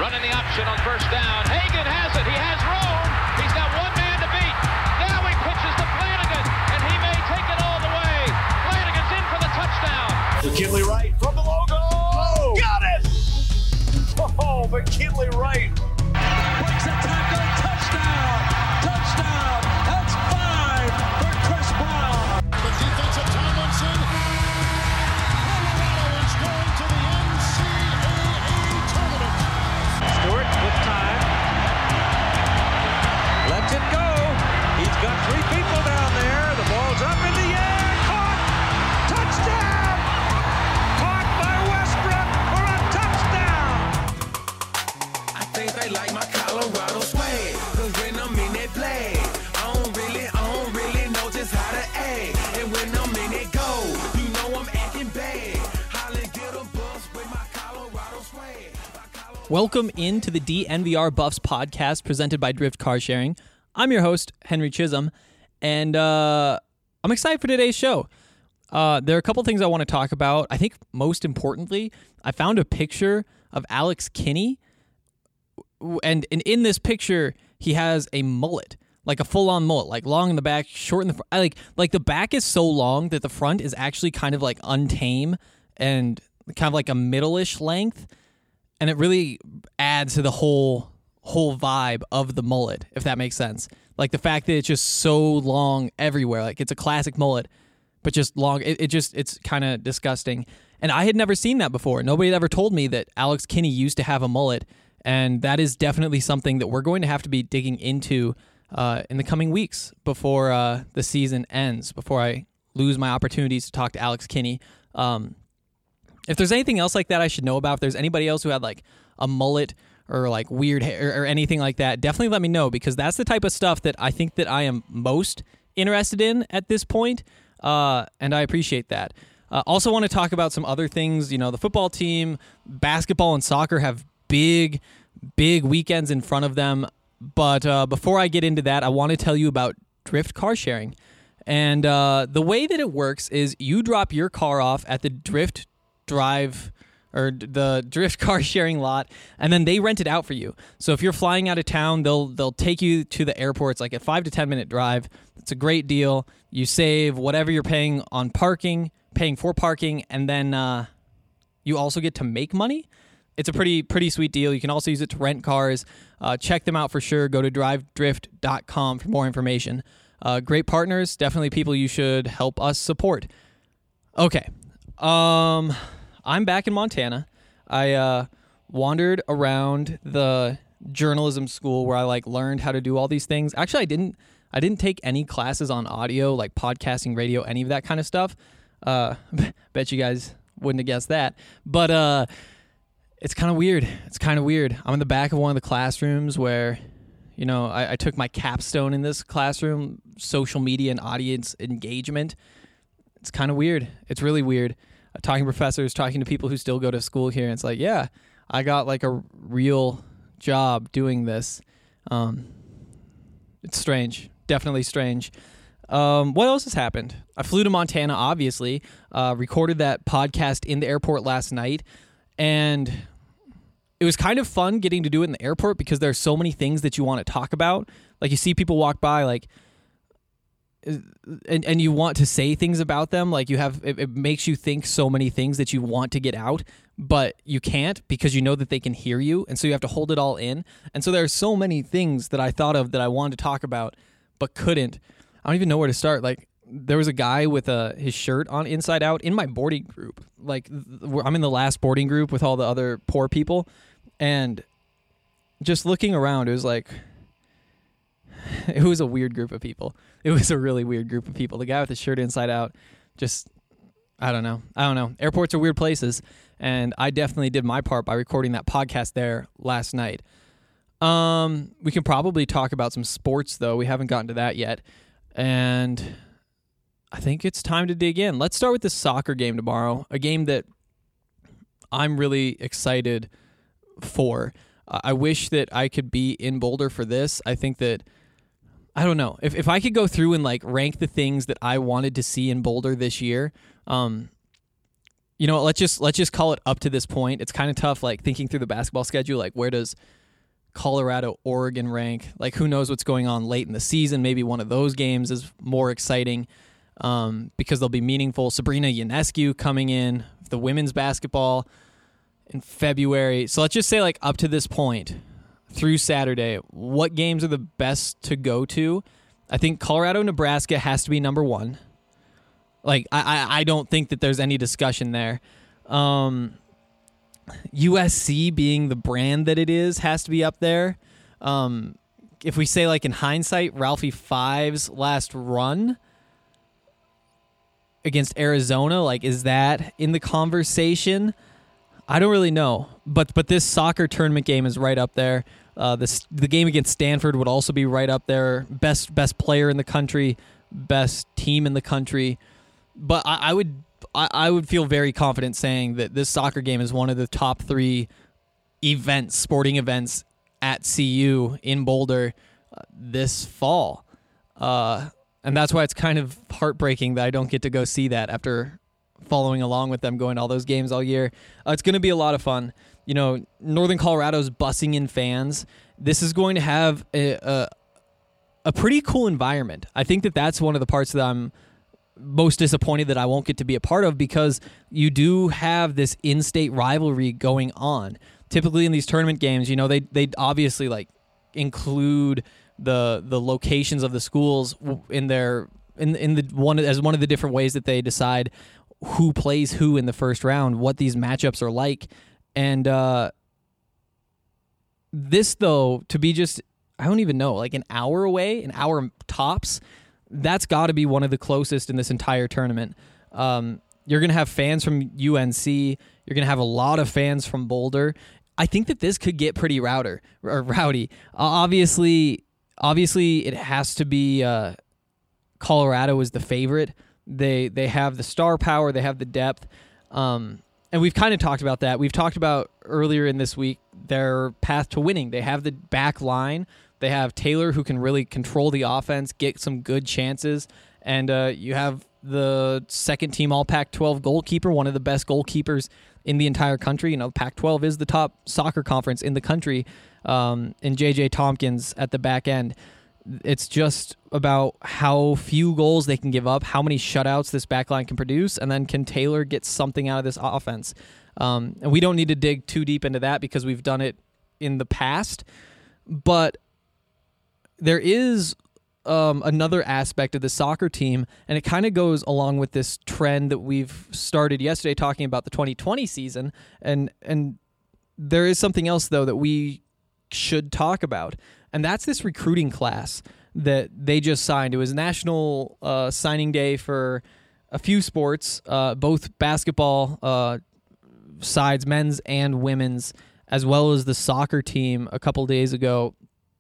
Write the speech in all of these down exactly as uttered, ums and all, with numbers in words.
Running the option on first down. Hagan has it. He has room. He's got one man to beat. Now he pitches to Flanagan, and he may take it all the way. Flanagan's in for the touchdown. McKinley Wright from the logo. Oh, got it! Oh, McKinley Wright. Breaks a tackle. Touchdown. Touchdown. That's five for Chris Brown. The defensive Tomlinson. Colorado is going to the N C double A tournament. Stewart with time. Lets it go. He's got three people down there. The ball's up in the air. Caught. Touchdown. Caught by Westbrook for a touchdown. I think they like my Colorado swag. Cause when I'm in that play, I don't really, I don't really know just how to act. And when I'm in it go, you know I'm acting bad. Holly get a bus with my Colorado swag. Welcome into the D N V R Buffs podcast presented by Drift Car Sharing. I'm your host, Henry Chisholm, and uh, I'm excited for today's show. Uh, there are a couple things I want to talk about. I think most importantly, I found a picture of Alex Kinney, and, and in this picture, he has a mullet, like a full-on mullet, like long in the back, short in the front. Like, like the back is so long that the front is actually kind of like untame and kind of like a middle-ish length. And it really adds to the whole whole vibe of the mullet, if that makes sense. Like the fact that it's just so long everywhere. Like it's a classic mullet, but just long. It, it just, it's kind of disgusting. And I had never seen that before. Nobody had ever told me that Alex Kinney used to have a mullet. And that is definitely something that we're going to have to be digging into uh, in the coming weeks before uh, the season ends, before I lose my opportunities to talk to Alex Kinney. Um, If there's anything else like that I should know about, if there's anybody else who had like a mullet or like weird hair or anything like that, definitely let me know, because that's the type of stuff that I think that I am most interested in at this point, uh, and I appreciate that. Uh, also want to talk about some other things. You know, the football team, basketball, and soccer have big, big weekends in front of them, but uh, before I get into that, I want to tell you about Drift Car Sharing. And uh, the way that it works is you drop your car off at the Drift drive or the Drift Car Sharing lot, and then they rent it out for you. So if you're flying out of town, they'll they'll take you to the airport. It's like a five to ten minute drive. It's a great deal. You save whatever you're paying on parking, paying for parking, and then uh, you also get to make money. It's a pretty pretty sweet deal. You can also use it to rent cars. Uh, check them out for sure. Go to drive drift dot com for more information. Uh, great partners, definitely people you should help us support. Okay. Um, I'm back in Montana. I uh, wandered around the journalism school where I like learned how to do all these things. Actually, I didn't. I didn't take any classes on audio, like podcasting, radio, any of that kind of stuff. Uh, bet you guys wouldn't have guessed that. But uh, it's kind of weird. It's kind of weird. I'm in the back of one of the classrooms where, you know, I, I took my capstone in this classroom, social media and audience engagement. It's kind of weird. It's really weird. Uh, talking to professors, talking to people who still go to school here. And it's like, yeah, I got like a real job doing this. Um, it's strange. Definitely strange. Um, what else has happened? I flew to Montana, obviously, uh, recorded that podcast in the airport last night. And it was kind of fun getting to do it in the airport because there's so many things that you want to talk about. Like you see people walk by, like, and and you want to say things about them. Like you have, it, it makes you think so many things that you want to get out, but you can't because you know that they can hear you. And so you have to hold it all in. And so there are so many things that I thought of that I wanted to talk about, but couldn't. I don't even know where to start. Like there was a guy with a, his shirt on inside out in my boarding group. Like I'm in the last boarding group with all the other poor people. And just looking around, it was like, it was a weird group of people. It was a really weird group of people. The guy with the shirt inside out, just, I don't know. I don't know. Airports are weird places, and I definitely did my part by recording that podcast there last night. Um, we can probably talk about some sports, though. We haven't gotten to that yet, and I think it's time to dig in. Let's start with the soccer game tomorrow, a game that I'm really excited for. Uh, I wish that I could be in Boulder for this. I think that I don't know. If if I could go through and like rank the things that I wanted to see in Boulder this year, um, you know, let's just let's just call it up to this point. It's kind of tough, like thinking through the basketball schedule. Like, where does Colorado, Oregon rank? Like, who knows what's going on late in the season? Maybe one of those games is more exciting um, because they'll be meaningful. Sabrina Ionescu coming in, the women's basketball in February. So let's just say, like, up to this point, through Saturday, what games are the best to go to? I think Colorado, Nebraska has to be number one. Like, I, I, I don't think that there's any discussion there. Um, U S C being the brand that it is has to be up there. Um, if we say, like, in hindsight, Ralphie Five's last run against Arizona, like, is that in the conversation? I don't really know. But but this soccer tournament game is right up there. Uh, this, the game against Stanford would also be right up there. Best best player in the country, best team in the country. But I, I would I, I would feel very confident saying that this soccer game is one of the top three events, sporting events at C U in Boulder uh, this fall. Uh, and that's why it's kind of heartbreaking that I don't get to go see that after following along with them, going to all those games all year. Uh, it's going to be a lot of fun. You know, Northern Colorado's bussing in fans. This is going to have a, a, a pretty cool environment. I think that that's one of the parts that I'm most disappointed that I won't get to be a part of, because you do have this in-state rivalry going on. Typically in these tournament games, you know, they they obviously like include the the locations of the schools in their in in the one as one of the different ways that they decide who plays who in the first round, what these matchups are like. And uh, this, though, to be just, I don't even know, like an hour away, an hour tops, that's got to be one of the closest in this entire tournament. Um, you're going to have fans from U N C. You're going to have a lot of fans from Boulder. I think that this could get pretty rowder, or rowdy. Uh, obviously, obviously, it has to be uh, Colorado is the favorite. They they have the star power. They have the depth. Um, and we've kind of talked about that. We've talked about earlier in this week their path to winning. They have the back line. They have Taylor, who can really control the offense, get some good chances. And uh, you have the second-team All Pac twelve goalkeeper, one of the best goalkeepers in the entire country. You know, Pac twelve is the top soccer conference in the country, um, and J J Tompkins at the back end. It's just about how few goals they can give up, how many shutouts this backline can produce, and then can Taylor get something out of this offense? Um, and we don't need to dig too deep into that because we've done it in the past. But there is um, another aspect of the soccer team, and it kind of goes along with this trend that we've started yesterday talking about the twenty twenty season. And and there is something else, though, that we should talk about. And that's this recruiting class that they just signed. It was National uh, Signing Day for a few sports, uh, both basketball uh, sides, men's and women's, as well as the soccer team a couple days ago.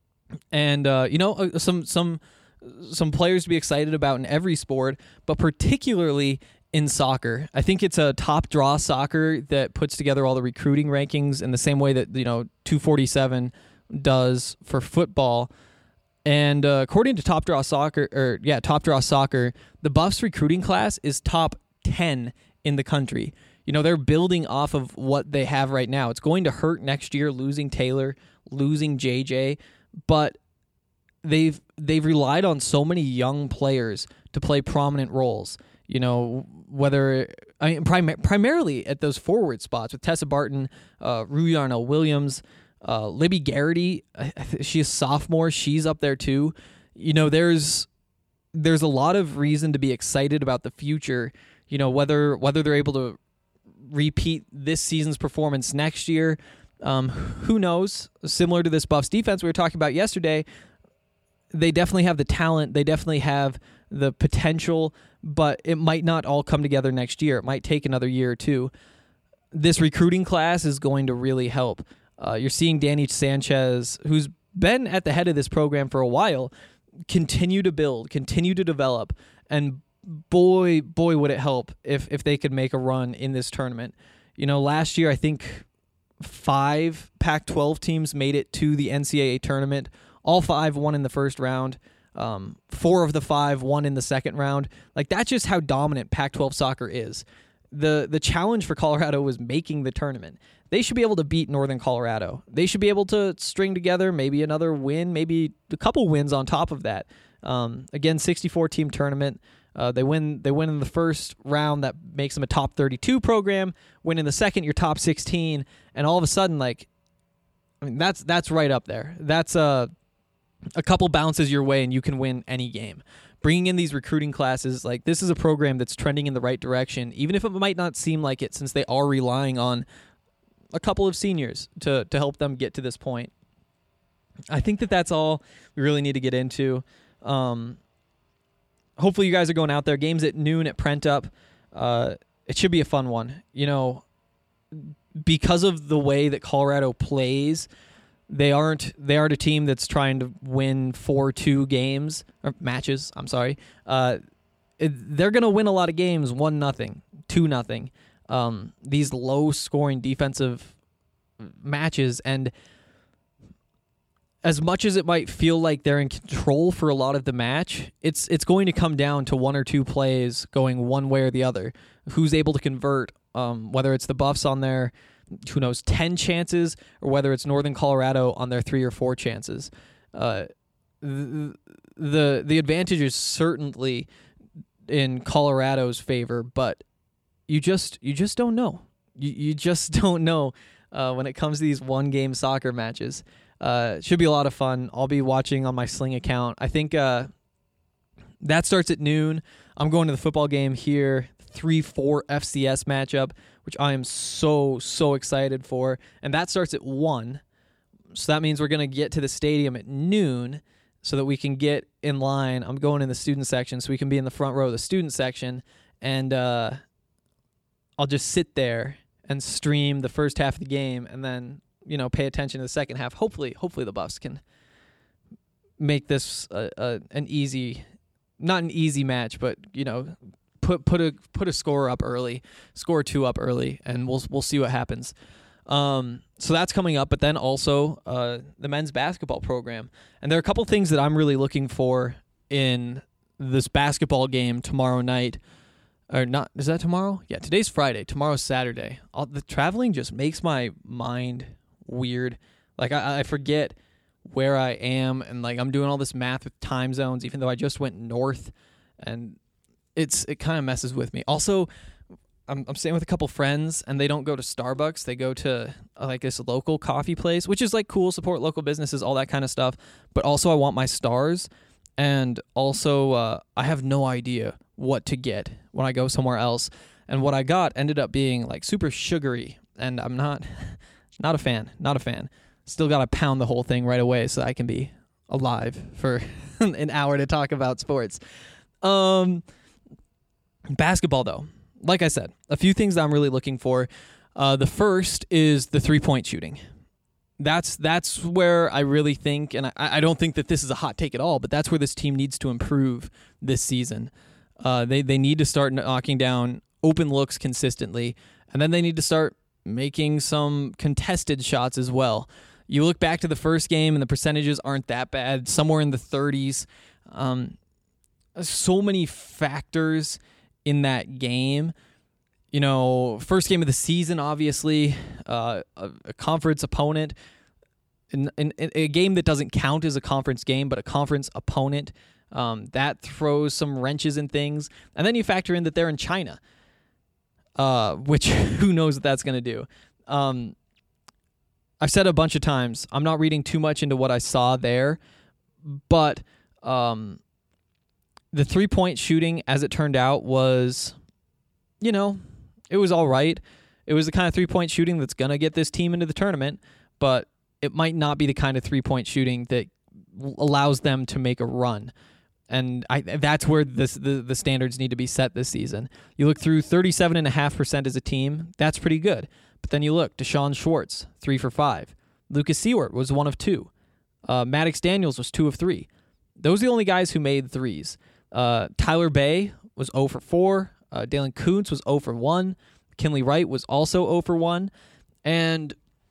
And uh, you know, some some some players to be excited about in every sport, but particularly in soccer. I think it's a Top Draw Soccer that puts together all the recruiting rankings in the same way that, you know, two forty-seven does for football. And uh, according to Top Draw Soccer, or yeah, Top Draw Soccer, the Buffs recruiting class is top ten in the country. You know, they're building off of what they have right now. It's going to hurt next year losing Taylor, losing J J, but they've they've relied on so many young players to play prominent roles. You know, whether I mean prim- primarily at those forward spots with Tessa Barton, uh, Rue Yarnell Williams. Uh, Libby Garrity, she's a sophomore. She's up there too. You know, there's there's a lot of reason to be excited about the future. You know, whether whether they're able to repeat this season's performance next year, um, who knows? Similar to this Buffs defense we were talking about yesterday, they definitely have the talent. They definitely have the potential, but it might not all come together next year. It might take another year or two. This recruiting class is going to really help. Uh, you're seeing Danny Sanchez, who's been at the head of this program for a while, continue to build, continue to develop, and boy, boy, would it help if if they could make a run in this tournament. You know, last year I think five Pac twelve teams made it to the N C double A tournament. All five won in the first round. Um, four of the five won in the second round. Like, that's just how dominant Pac twelve soccer is. the the challenge for Colorado was making the tournament. They should be able to beat Northern Colorado. They should be able to string together maybe another win, maybe a couple wins on top of that. Um, again, sixty-four team tournament. Uh, they win. They win in the first round. That makes them a top thirty-two program. Win in the second, you're top sixteen, and all of a sudden, like, I mean, that's that's right up there. That's a a couple bounces your way, and you can win any game. Bringing in these recruiting classes, like, this is a program that's trending in the right direction, even if it might not seem like it, since they are relying on a couple of seniors to to help them get to this point. I think that that's all we really need to get into. Um, hopefully you guys are going out there. Games at noon at Prentup. Uh, it should be a fun one. You know, because of the way that Colorado plays, they aren't they aren't a team that's trying to win four two games or matches. I'm sorry. Uh, it, they're gonna win a lot of games one nothing, two nothing. Um, these low scoring defensive matches, and as much as it might feel like they're in control for a lot of the match, it's it's going to come down to one or two plays going one way or the other. Who's able to convert, um, whether it's the Buffs on their, who knows, ten chances, or whether it's Northern Colorado on their three or four chances. Uh, the, the the advantage is certainly in Colorado's favor, but you just you just don't know. You you just don't know uh, when it comes to these one game soccer matches. Uh, should be a lot of fun. I'll be watching on my Sling account. I think uh, that starts at noon. I'm going to the football game here, three four F C S matchup, which I am so, so excited for. And that starts at one. So that means we're going to get to the stadium at noon so that we can get in line. I'm going in the student section so we can be in the front row of the student section. And uh, I'll just sit there and stream the first half of the game and then, you know, pay attention to the second half. Hopefully, hopefully the Buffs can make this uh, uh, an easy, not an easy match, but, you know, put put a put a score up early, score two up early, and we'll we'll see what happens. Um, so that's coming up, but then also uh, the men's basketball program, and there are a couple things that I'm really looking for in this basketball game tomorrow night. Or not? Is that tomorrow? Yeah, today's Friday. Tomorrow's Saturday. All, the traveling just makes my mind weird. Like I, I forget where I am, and like I'm doing all this math with time zones, even though I just went north, and it's it kind of messes with me. Also, I'm I'm staying with a couple friends, and they don't go to Starbucks. They go to uh, like this local coffee place, which is like cool, support local businesses, all that kind of stuff. But also, I want my stars, and also uh, I have no idea what to get when I go somewhere else. And what I got ended up being like super sugary, and I'm not not a fan, not a fan. Still got to pound the whole thing right away so I can be alive for an hour to talk about sports. Um, basketball, though, like I said, a few things that I'm really looking for. Uh, the first is the three-point shooting. That's that's where I really think, and I, I don't think that this is a hot take at all, but that's where this team needs to improve this season. Uh, they they need to start knocking down open looks consistently, and then they need to start making some contested shots as well. You look back to the first game, and the percentages aren't that bad, somewhere in the thirties. Um, so many factors in that game. You know, first game of the season, obviously, uh, a, a conference opponent, in, in, in a game that doesn't count as a conference game, but a conference opponent. Um, that throws some wrenches in things. And then you factor in that they're in China, uh, which who knows what that's going to do. Um, I've said a bunch of times, I'm not reading too much into what I saw there, but um, the three-point shooting, as it turned out, was, you know, it was all right. It was the kind of three-point shooting that's going to get this team into the tournament, but it might not be the kind of three-point shooting that allows them to make a run. And I, that's where this, the, the standards need to be set this season. You look through thirty-seven point five percent as a team, that's pretty good. But then you look, Deshaun Schwartz, three for five. Lucas Seward was one of two. Uh, Maddox Daniels was two of three. Those are the only guys who made threes. Uh, Tyler Bay was zero for four. Uh, Dalen Kuntz was zero for one. Kinley Wright was also zero for one. And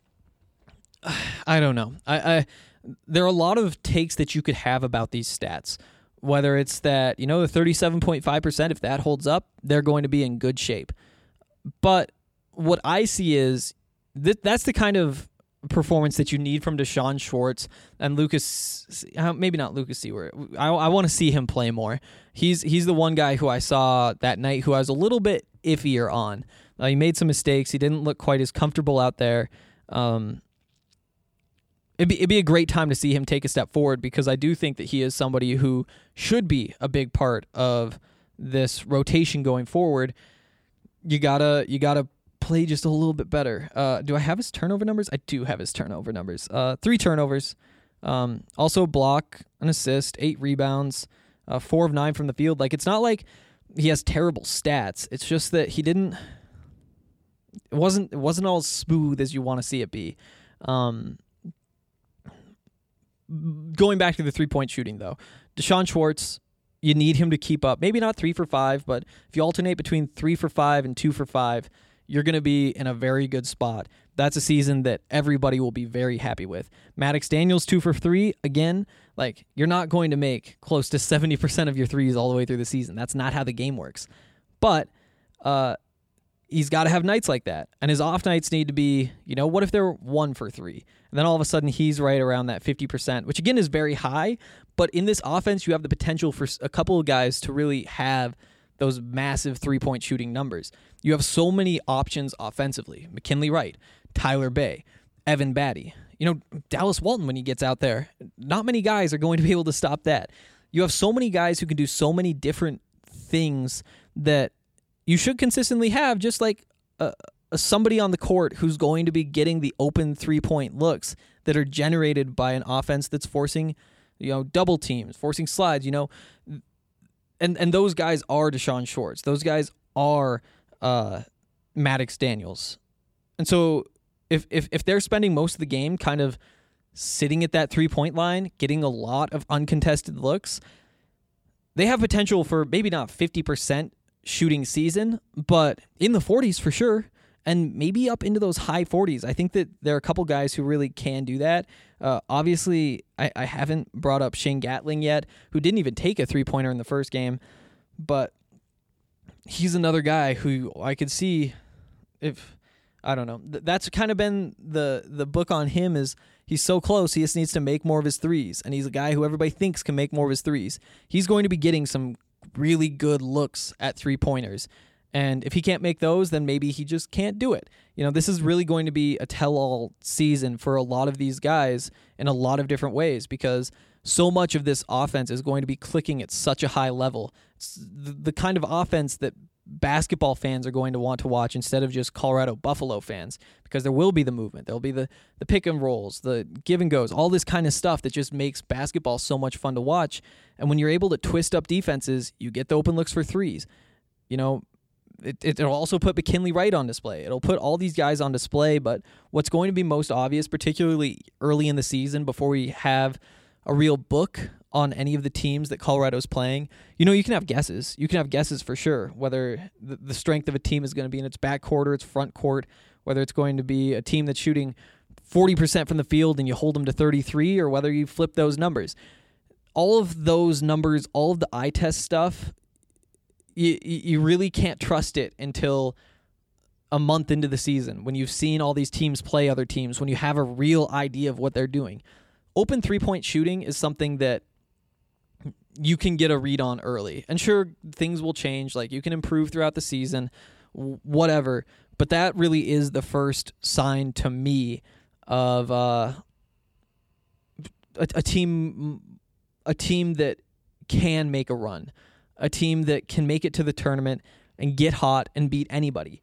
uh, I don't know. I, I there are a lot of takes that you could have about these stats. Whether it's that, you know, the thirty-seven point five percent, if that holds up, they're going to be in good shape. But what I see is th- that's the kind of performance that you need from Deshaun Schwartz and Lucas, maybe not Lucas Seward. I, I want to see him play more. He's he's the one guy who I saw that night who I was a little bit iffier on. Uh, he made some mistakes. He didn't look quite as comfortable out there. Um, it'd be, it'd be a great time to see him take a step forward because I do think that he is somebody who should be a big part of this rotation going forward. You gotta you gotta play just a little bit better. Uh, do I have his turnover numbers? I do have his turnover numbers. Uh, three turnovers. Um, also a block, an assist, eight rebounds, uh, four of nine from the field. Like it's not like he has terrible stats. It's just that he didn't. It wasn't. It wasn't all as smooth as you want to see it be. Um, going back to the three point shooting though, Deshaun Schwartz. You need him to keep up. Maybe not three for five, but if you alternate between three for five and two for five, you're going to be in a very good spot. That's a season that everybody will be very happy with. Maddox Daniels, two for three. Again, like you're not going to make close to seventy percent of your threes all the way through the season. That's not how the game works. But uh, he's got to have nights like that. And his off nights need to be, you know, what if they're one for three? And then all of a sudden he's right around that fifty percent, which again is very high. But in this offense, you have the potential for a couple of guys to really have those massive three-point shooting numbers. You have so many options offensively. McKinley Wright, Tyler Bay, Evan Batty. You know, Dallas Walton when he gets out there. Not many guys are going to be able to stop that. You have so many guys who can do so many different things that you should consistently have, just like a, a somebody on the court who's going to be getting the open three-point looks that are generated by an offense that's forcing, you know, double teams, forcing slides, you know. And and those guys are Deshaun Schwartz. Those guys are uh, Maddox Daniels. And so if, if if they're spending most of the game kind of sitting at that three-point line, getting a lot of uncontested looks, they have potential for maybe not fifty percent shooting season, but in the forties for sure, and maybe up into those high forties. I think that there are a couple guys who really can do that. Uh, obviously, I, I haven't brought up Shane Gatling yet, who didn't even take a three-pointer in the first game, but he's another guy who I could see if, I don't know, th- that's kind of been the, the book on him is he's so close, he just needs to make more of his threes, and he's a guy who everybody thinks can make more of his threes. He's going to be getting some really good looks at three-pointers. And if he can't make those, then maybe he just can't do it. You know, this is really going to be a tell-all season for a lot of these guys in a lot of different ways because so much of this offense is going to be clicking at such a high level. It's the kind of offense that basketball fans are going to want to watch instead of just Colorado Buffalo fans because there will be the movement. There'll be the, the pick and rolls, the give and goes, all this kind of stuff that just makes basketball so much fun to watch. And when you're able to twist up defenses, you get the open looks for threes. You know, It, it'll also put McKinley Wright on display. It'll put all these guys on display, but what's going to be most obvious, particularly early in the season before we have a real book on any of the teams that Colorado's playing, you know, you can have guesses. You can have guesses for sure, whether the, the strength of a team is going to be in its back court or its front court, whether it's going to be a team that's shooting forty percent from the field and you hold them to thirty-three, or whether you flip those numbers. All of those numbers, all of the eye test stuff, You you really can't trust it until a month into the season when you've seen all these teams play other teams, when you have a real idea of what they're doing. Open three-point shooting is something that you can get a read on early. And sure, things will change. Like, you can improve throughout the season, whatever. But that really is the first sign to me of uh, a, a team a team that can make a run. A team that can make it to the tournament and get hot and beat anybody.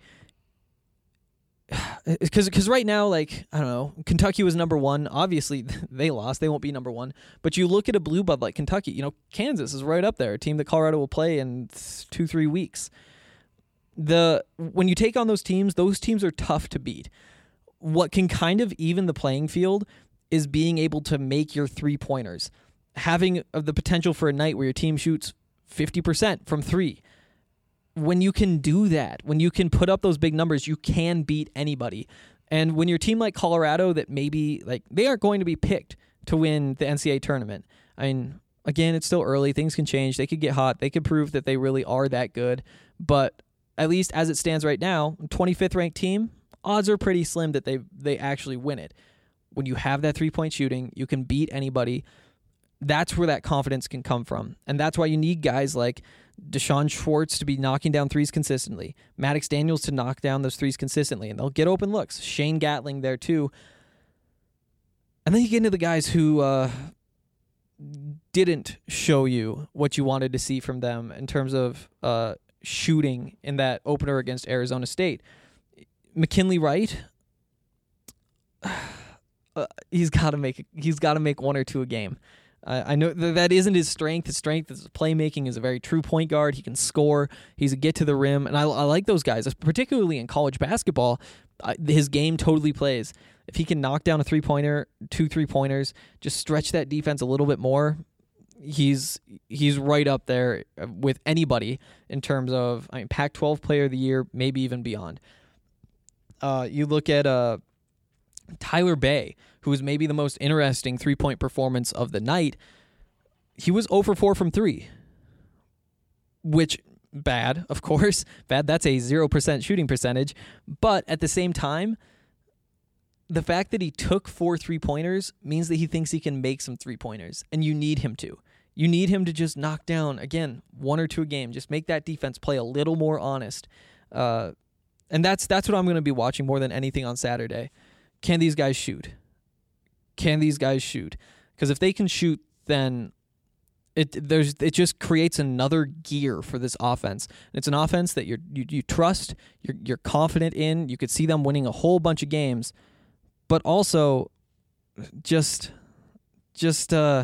Because because right now, like, I don't know, Kentucky was number one. Obviously, they lost. They won't be number one. But you look at a blue blood like Kentucky, you know, Kansas is right up there, a team that Colorado will play in two, three weeks. The when you take on those teams, those teams are tough to beat. What can kind of even the playing field is being able to make your three-pointers. Having the potential for a night where your team shoots fifty percent from three. When you can do that, when you can put up those big numbers, you can beat anybody. And when you're a team like Colorado that maybe, like, they aren't going to be picked to win the N C double A tournament. I mean, again, it's still early. Things can change. They could get hot. They could prove that they really are that good. But at least as it stands right now, twenty-fifth ranked team, odds are pretty slim that they they actually win it. When you have that three-point shooting, you can beat anybody. That's where that confidence can come from. And that's why you need guys like Deshaun Schwartz to be knocking down threes consistently, Maddox Daniels to knock down those threes consistently, and they'll get open looks. Shane Gatling there too. And then you get into the guys who uh, didn't show you what you wanted to see from them in terms of uh, shooting in that opener against Arizona State. McKinley Wright, uh, he's got to make he's got to make one or two a game. Uh, I know that, that isn't his strength. His strength is playmaking. Is a very true point guard. He can score. He's a get to the rim, and I, I like those guys, particularly in college basketball. Uh, his game totally plays. If he can knock down a three-pointer, two three-pointers, just stretch that defense a little bit more, he's he's right up there with anybody in terms of, I mean, Pac twelve Player of the Year, maybe even beyond. Uh, you look at uh, Tyler Bay, who was maybe the most interesting three-point performance of the night. He was zero for four from three, which, bad, of course. Bad, that's a zero percent shooting percentage. But at the same time, the fact that he took four three-pointers means that he thinks he can make some three-pointers, and you need him to. You need him to just knock down, again, one or two a game. Just make that defense play a little more honest. Uh, and that's that's what I'm going to be watching more than anything on Saturday. Can these guys shoot? Can these guys shoot? Because if they can shoot, then it there's it just creates another gear for this offense. And it's an offense that you're, you you trust, you're you're confident in. You could see them winning a whole bunch of games, but also just just uh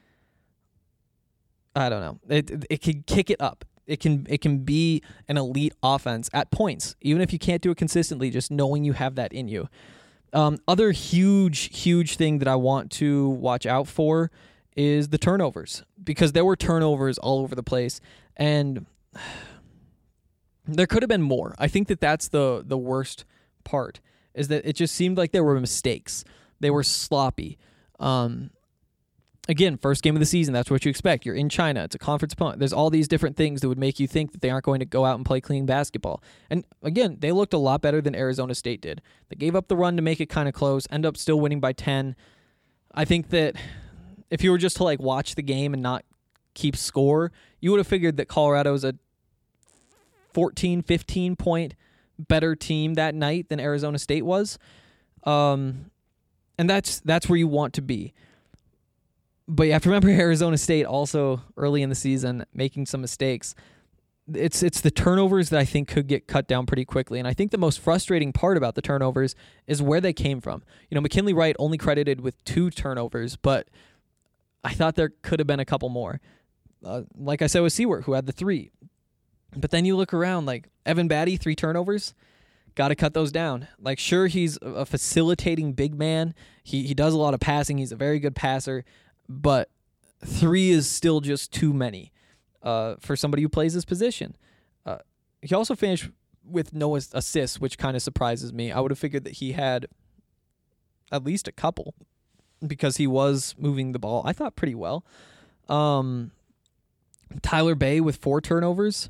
I don't know. It it, it can kick it up. It can it can be an elite offense at points, even if you can't do it consistently. Just knowing you have that in you. Um, other huge, huge thing that I want to watch out for is the turnovers, because there were turnovers all over the place, and there could have been more. I think that that's the the worst part, is that it just seemed like there were mistakes. They were sloppy. Um, again, first game of the season, that's what you expect. You're in China. It's a conference opponent. There's all these different things that would make you think that they aren't going to go out and play clean basketball. And again, they looked a lot better than Arizona State did. They gave up the run to make it kind of close, end up still winning by ten. I think that if you were just to like watch the game and not keep score, you would have figured that Colorado's a fourteen, fifteen point better team that night than Arizona State was. Um, and that's that's where you want to be. But you have to remember Arizona State also early in the season making some mistakes. It's it's the turnovers that I think could get cut down pretty quickly. And I think the most frustrating part about the turnovers is where they came from. You know, McKinley Wright only credited with two turnovers, but I thought there could have been a couple more. Uh, like I said with Seward, who had the three. But then you look around, like Evan Batty, three turnovers. Got to cut those down. Like, sure, he's a facilitating big man. He he does a lot of passing. He's a very good passer. But three is still just too many uh, for somebody who plays this position. Uh, he also finished with no assists, which kind of surprises me. I would have figured that he had at least a couple because he was moving the ball, I thought, pretty well. Um, Tyler Bay with four turnovers.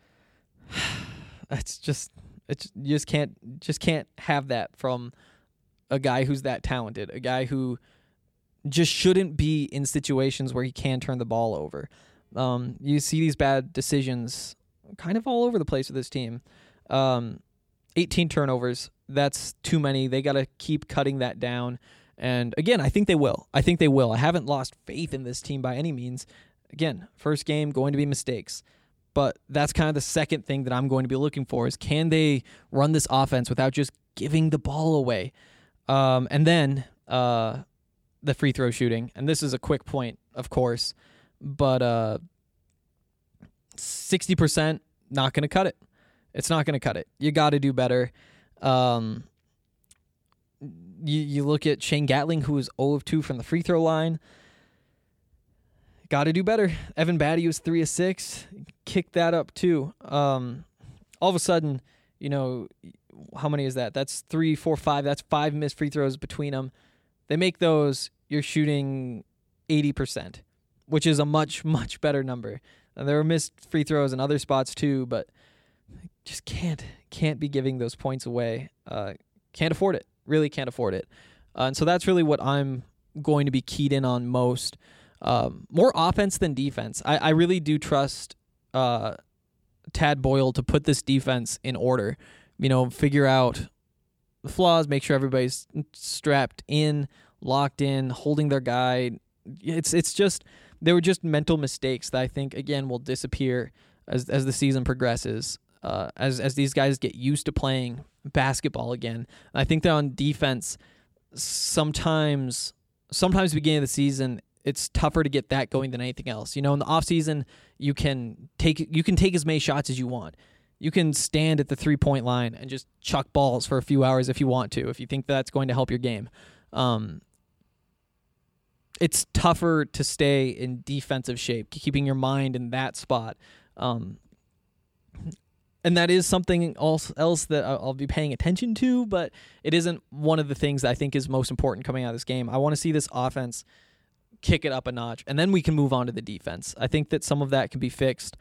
It's just it's you just can't just can't have that from a guy who's that talented, a guy who just shouldn't be in situations where he can turn the ball over. Um, you see these bad decisions kind of all over the place with this team. Um, eighteen turnovers, that's too many. They got to keep cutting that down. And again, I think they will. I think they will. I haven't lost faith in this team by any means. Again, first game, going to be mistakes. But that's kind of the second thing that I'm going to be looking for is, can they run this offense without just giving the ball away? Um, and then uh, the free throw shooting. And this is a quick point, of course. But uh, sixty percent, not going to cut it. It's not going to cut it. You got to do better. Um, you, you look at Shane Gatling, who was zero of two from the free throw line. Got to do better. Evan Batty was three of six. Kicked that up too. Um, all of a sudden, you know, how many is that? That's three, four, five. That's five missed free throws between them. They make those, you're shooting eighty percent, which is a much, much better number. And there were missed free throws in other spots too, but just can't can't be giving those points away. Uh, can't afford it. Really can't afford it. Uh, and so that's really what I'm going to be keyed in on most. Um, more offense than defense. I, I really do trust uh, Tad Boyle to put this defense in order. You know, figure out the flaws, make sure everybody's strapped in, locked in, holding their guy. It's it's just they were just mental mistakes that I think again will disappear as as the season progresses. Uh, as as these guys get used to playing basketball again. I think that on defense, sometimes sometimes beginning of the season, it's tougher to get that going than anything else. You know, in the offseason, you can take you can take as many shots as you want. You can stand at the three-point line and just chuck balls for a few hours if you want to, if you think that's going to help your game. Um, it's tougher to stay in defensive shape, keeping your mind in that spot. Um, and that is something else, else that I'll be paying attention to, but it isn't one of the things that I think is most important coming out of this game. I want to see this offense kick it up a notch, and then we can move on to the defense. I think that some of that can be fixed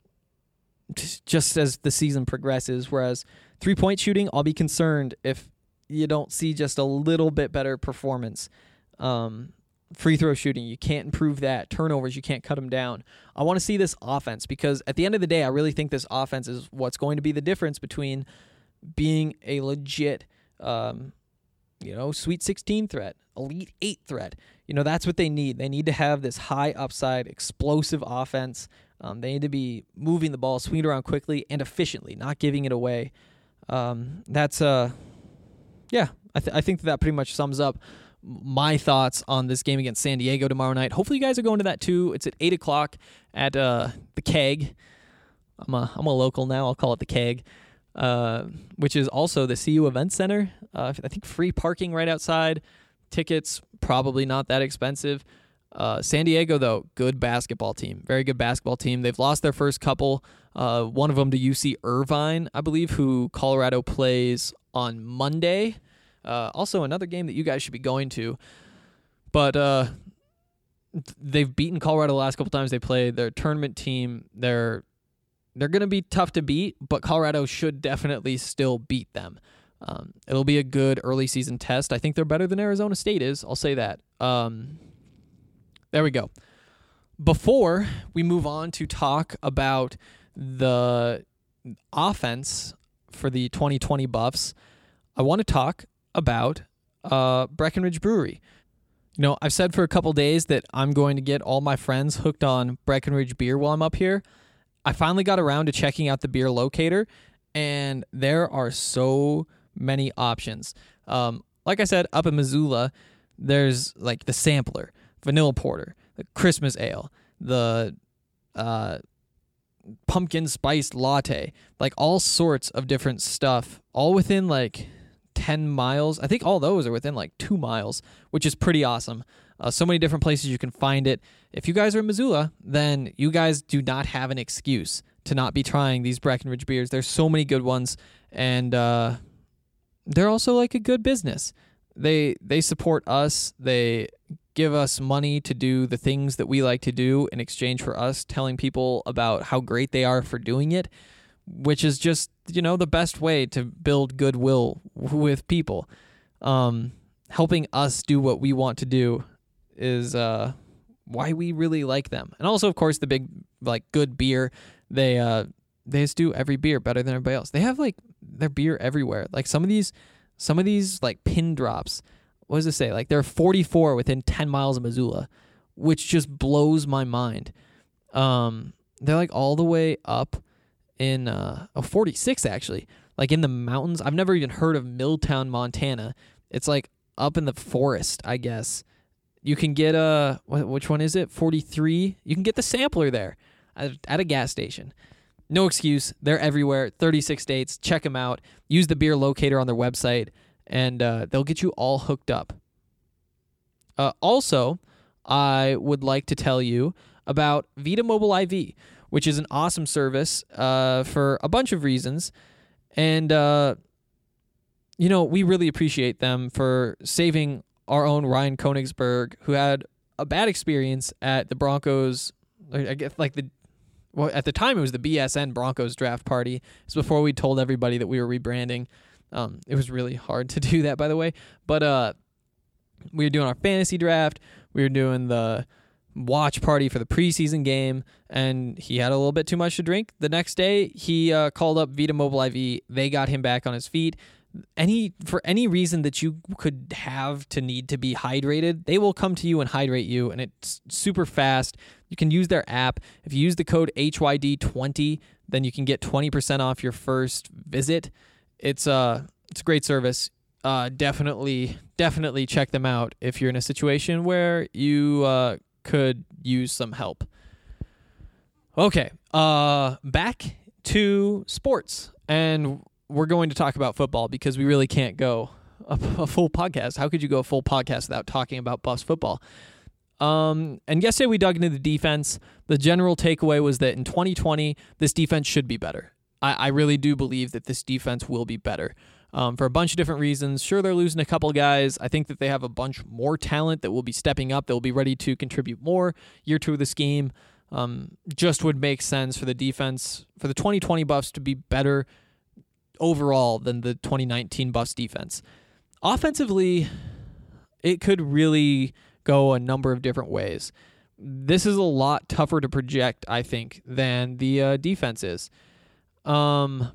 just as the season progresses, whereas three-point shooting, I'll be concerned if you don't see just a little bit better performance. Um, free throw shooting, you can't improve that. Turnovers, you can't cut them down. I want to see this offense because at the end of the day, I really think this offense is what's going to be the difference between being a legit, um, you know, Sweet sixteen threat, Elite eight threat. You know, that's what they need. They need to have this high upside, explosive offense. Um, they need to be moving the ball, swinging it around quickly and efficiently, not giving it away. Um, that's, uh, yeah, I, th- I think that pretty much sums up my thoughts on this game against San Diego tomorrow night. Hopefully you guys are going to that too. It's at eight o'clock at uh, the Keg. I'm a, I'm a local now. I'll call it the Keg, uh, which is also the C U Event Center. Uh, I think free parking right outside. Tickets, probably not that expensive. Uh, San Diego, though, good basketball team. Very good basketball team. They've lost their first couple. Uh, one of them to U C Irvine, I believe, who Colorado plays on Monday. Uh, also, another game that you guys should be going to. But uh, they've beaten Colorado the last couple times they played. They're a tournament team. They're they're going to be tough to beat, but Colorado should definitely still beat them. Um, it'll be a good early season test. I think they're better than Arizona State is. I'll say that. Um, there we go. Before we move on to talk about the offense for the twenty twenty Buffs, I want to talk about uh, Breckenridge Brewery. You know, I've said for a couple days that I'm going to get all my friends hooked on Breckenridge beer while I'm up here. I finally got around to checking out the beer locator, and there are so many options. Um, like I said, up in Missoula, there's like the Sampler, Vanilla Porter, the Christmas Ale, the uh, Pumpkin Spiced Latte, like all sorts of different stuff, all within like ten miles. I think all those are within like two miles, which is pretty awesome. Uh, so many different places you can find it. If you guys are in Missoula, then you guys do not have an excuse to not be trying these Breckenridge beers. There's so many good ones, and uh, they're also like a good business. They they support us. They give us money to do the things that we like to do in exchange for us telling people about how great they are for doing it, which is just, you know, the best way to build goodwill with people. Um, helping us do what we want to do is uh, why we really like them. And also, of course, the big, like, good beer. They uh, they just do every beer better than everybody else. They have, like, their beer everywhere. Like, some of these, some of these, like, pin drops, what does it say? Like, there are forty-four within ten miles of Missoula, which just blows my mind. Um, they're, like, all the way up in, uh, oh, forty-six, actually. Like, in the mountains. I've never even heard of Milltown, Montana. It's, like, up in the forest, I guess. You can get a, which one is it? forty-three? You can get the Sampler there at, at a gas station. No excuse. They're everywhere. thirty-six states. Check them out. Use the beer locator on their website, and uh, they'll get you all hooked up. Uh, also, I would like to tell you about Vita Mobile I V, which is an awesome service uh, for a bunch of reasons. And, uh, you know, we really appreciate them for saving our own Ryan Koenigsberg, who had a bad experience at the Broncos. I guess, like, the well, at the time it was the B S N Broncos draft party. It's before we told everybody that we were rebranding. Um, it was really hard to do that, by the way. But uh, we were doing our fantasy draft. We were doing the watch party for the preseason game, and he had a little bit too much to drink. The next day, he uh, called up Vita Mobile I V. They got him back on his feet. Any for any reason that you could have to need to be hydrated, they will come to you and hydrate you, and it's super fast. You can use their app. If you use the code H Y D twenty, then you can get twenty percent off your first visit. It's uh it's a great service. Uh, definitely, definitely check them out if you're in a situation where you uh, could use some help. Okay, uh, back to sports, and we're going to talk about football because we really can't go a, a full podcast. How could you go a full podcast without talking about Buffs football? Um, and yesterday we dug into the defense. The general takeaway was that in twenty twenty, this defense should be better. I, I really do believe that this defense will be better. Um, for a bunch of different reasons. Sure, they're losing a couple guys. I think that they have a bunch more talent that will be stepping up, that will be ready to contribute more year two of the scheme. Um, just would make sense for the defense, for the twenty twenty Buffs to be better overall than the twenty nineteen Buffs defense. Offensively, it could really go a number of different ways. This is a lot tougher to project, I think, than the uh, defense is. Um...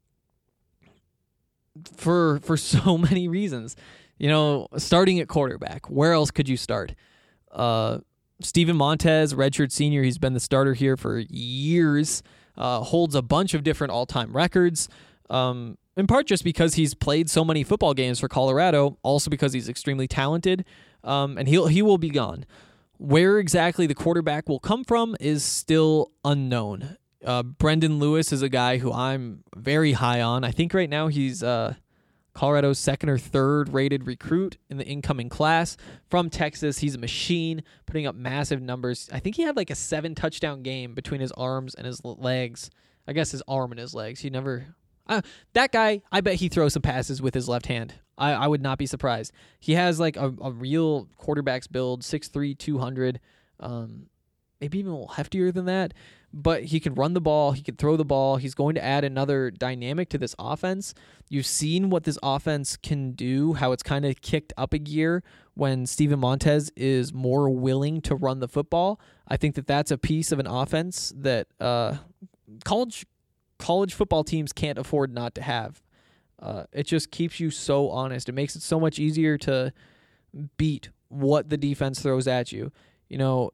For for so many reasons. You know, starting at quarterback, where else could you start? Uh, Steven Montez, redshirt senior, he's been the starter here for years, uh, holds a bunch of different all-time records, um, in part just because he's played so many football games for Colorado, also because he's extremely talented, um, and he'll, he will be gone. Where exactly the quarterback will come from is still unknown. Uh, Brendan Lewis is a guy who I'm very high on. I think right now he's uh, Colorado's second or third rated recruit in the incoming class from Texas. He's a machine, putting up massive numbers. I think he had like a seven touchdown game between his arms and his legs. I guess his arm and his legs. He never... Uh, that guy, I bet he throws some passes with his left hand. I, I would not be surprised. He has like a, a real quarterback's build, six three, two hundred, um, maybe even a little heftier than that. But he can run the ball. He can throw the ball. He's going to add another dynamic to this offense. You've seen what this offense can do, how it's kind of kicked up a gear when Steven Montez is more willing to run the football. I think that that's a piece of an offense that uh, college college football teams can't afford not to have. Uh, it just keeps you so honest. It makes it so much easier to beat what the defense throws at you. You know,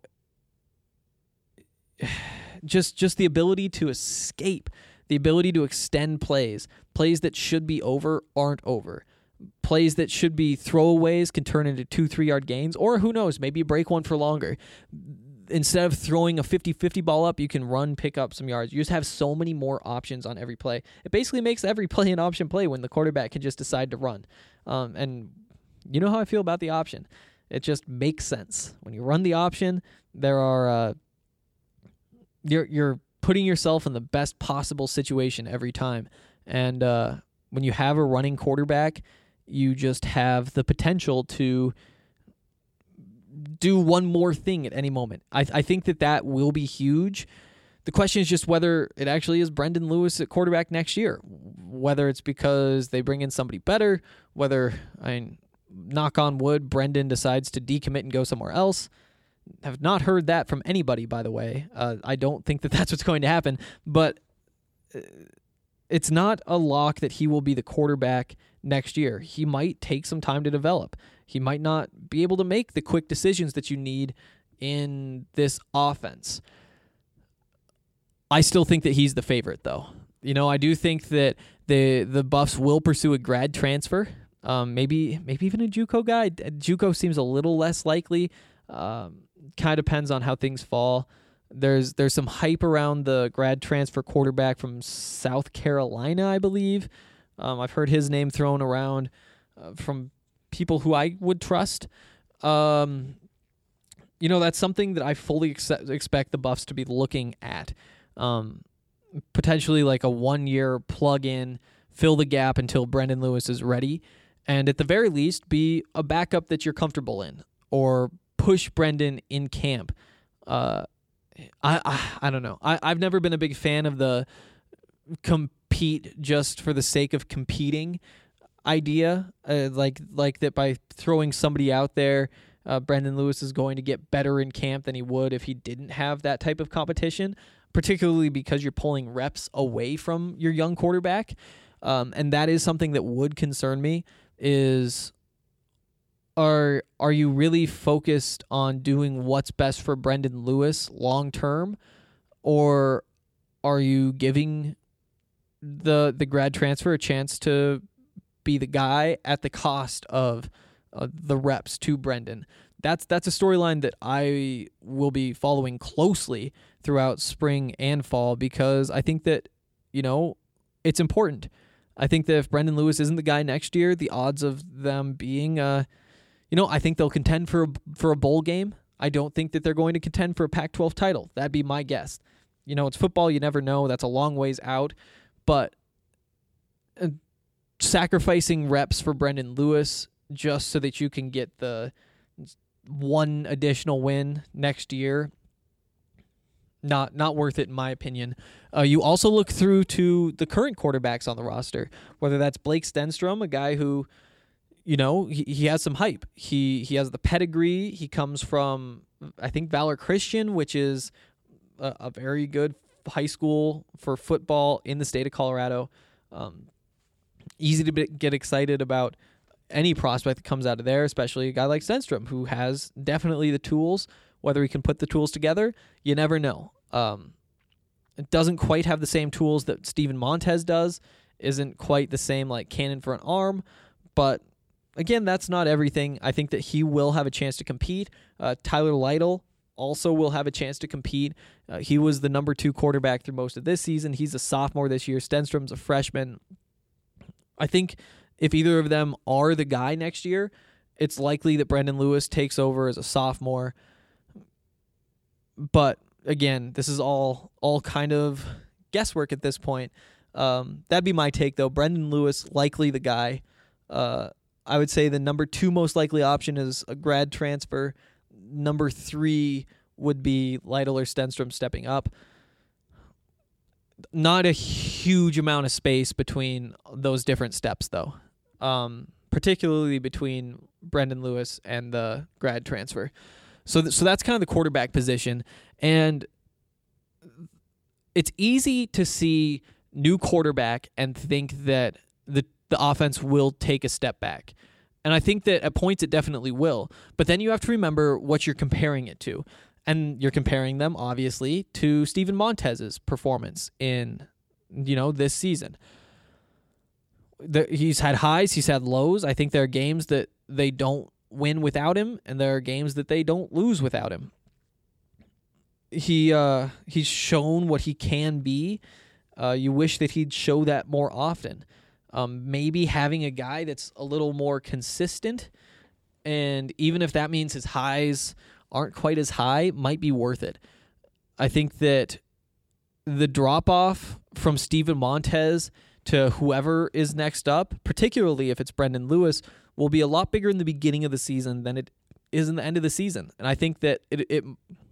Just just the ability to escape, the ability to extend plays. Plays that should be over aren't over. Plays that should be throwaways can turn into two, three-yard gains, or who knows, maybe you break one for longer. Instead of throwing a fifty-fifty ball up, you can run, pick up some yards. You just have so many more options on every play. It basically makes every play an option play when the quarterback can just decide to run. Um, and you know how I feel about the option. It just makes sense. When you run the option, there are... Uh, You're you're putting yourself in the best possible situation every time. And uh, when you have a running quarterback, you just have the potential to do one more thing at any moment. I I think that that will be huge. The question is just whether it actually is Brendan Lewis at quarterback next year. Whether it's because they bring in somebody better, whether, I mean, knock on wood, Brendan decides to decommit and go somewhere else. Have not heard that from anybody, by the way. Uh, I don't think that that's what's going to happen, but it's not a lock that he will be the quarterback next year. He might take some time to develop. He might not be able to make the quick decisions that you need in this offense. I still think that he's the favorite, though. You know, I do think that the the Buffs will pursue a grad transfer, um, maybe maybe even a JUCO guy. JUCO seems a little less likely. Um, kind of depends on how things fall. There's there's some hype around the grad transfer quarterback from South Carolina, I believe. Um, I've heard his name thrown around uh, from people who I would trust. Um, you know, that's something that I fully ex- expect the Buffs to be looking at. Um, potentially like a one-year plug-in, fill the gap until Brendan Lewis is ready, and at the very least be a backup that you're comfortable in, or push Brendan in camp. Uh, I, I I don't know. I I've never been a big fan of the compete just for the sake of competing idea. Uh, like like that by throwing somebody out there, uh, Brendan Lewis is going to get better in camp than he would if he didn't have that type of competition. Particularly because you're pulling reps away from your young quarterback, um, and that is something that would concern me. Is Are are you really focused on doing what's best for Brendan Lewis long term, or are you giving the the grad transfer a chance to be the guy at the cost of uh, the reps to Brendan? That's that's a storyline that I will be following closely throughout spring and fall, because I think that, you know, it's important. I think that if Brendan Lewis isn't the guy next year, the odds of them being uh You know, I think they'll contend for a, for a bowl game. I don't think that they're going to contend for a Pac twelve title. That'd be my guess. You know, it's football. You never know. That's a long ways out. But uh, sacrificing reps for Brendan Lewis just so that you can get the one additional win next year, not not worth it in my opinion. Uh, you also look through to the current quarterbacks on the roster, whether that's Blake Stenstrom, a guy who, you know, he, he has some hype. He he has the pedigree. He comes from, I think, Valor Christian, which is a, a very good high school for football in the state of Colorado. Um, easy to be, get excited about any prospect that comes out of there, especially a guy like Stenstrom, who has definitely the tools. Whether he can put the tools together, you never know. Um, it doesn't quite have the same tools that Steven Montez does. Isn't quite the same, like, cannon for an arm, but again, that's not everything. I think that he will have a chance to compete. Uh, Tyler Lytle also will have a chance to compete. Uh, he was the number two quarterback through most of this season. He's a sophomore this year. Stenstrom's a freshman. I think if either of them are the guy next year, it's likely that Brendan Lewis takes over as a sophomore. But again, this is all all kind of guesswork at this point. Um, that'd be my take, though. Brendan Lewis, likely the guy. Uh, I would say the number two most likely option is a grad transfer. Number three would be Lytle or Stenstrom stepping up. Not a huge amount of space between those different steps, though, um, particularly between Brendan Lewis and the grad transfer. So, th- so that's kind of the quarterback position, and it's easy to see new quarterback and think that the the offense will take a step back. And I think that at points it definitely will. But then you have to remember what you're comparing it to. And you're comparing them, obviously, to Steven Montez's performance in, you know, this season. The, he's had highs, he's had lows. I think there are games that they don't win without him, and there are games that they don't lose without him. He uh, he's shown what he can be. Uh, you wish that he'd show that more often. Um, maybe having a guy that's a little more consistent, and even if that means his highs aren't quite as high, might be worth it. I think that the drop-off from Steven Montez to whoever is next up, particularly if it's Brendan Lewis, will be a lot bigger in the beginning of the season than it is in the end of the season. And I think that it it,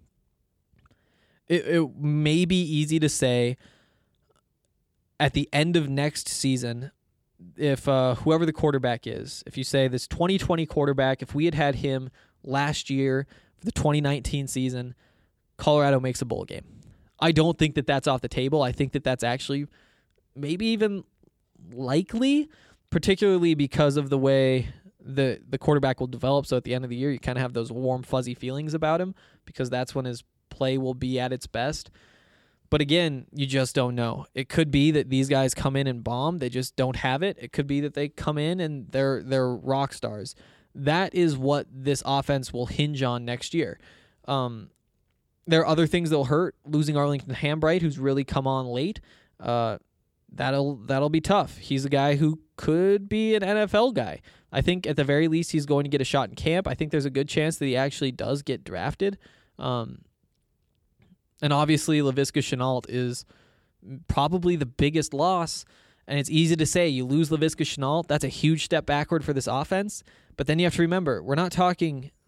it, it may be easy to say at the end of next season, if uh, whoever the quarterback is, if you say this twenty twenty quarterback, if we had had him last year for the twenty nineteen season, Colorado makes a bowl game. I don't think that that's off the table. I think that that's actually maybe even likely, particularly because of the way the the quarterback will develop. So at the end of the year, you kind of have those warm, fuzzy feelings about him because that's when his play will be at its best. But again, you just don't know. It could be that these guys come in and bomb. They just don't have it. It could be that they come in and they're they're rock stars. That is what this offense will hinge on next year. Um, there are other things that will hurt. Losing Arlington Hambright, who's really come on late, uh, that'll that'll be tough. He's a guy who could be an N F L guy. I think at the very least he's going to get a shot in camp. I think there's a good chance that he actually does get drafted. Um, And obviously, Laviska Shenault is probably the biggest loss. And it's easy to say you lose Laviska Shenault, that's a huge step backward for this offense. But then you have to remember, we're not talking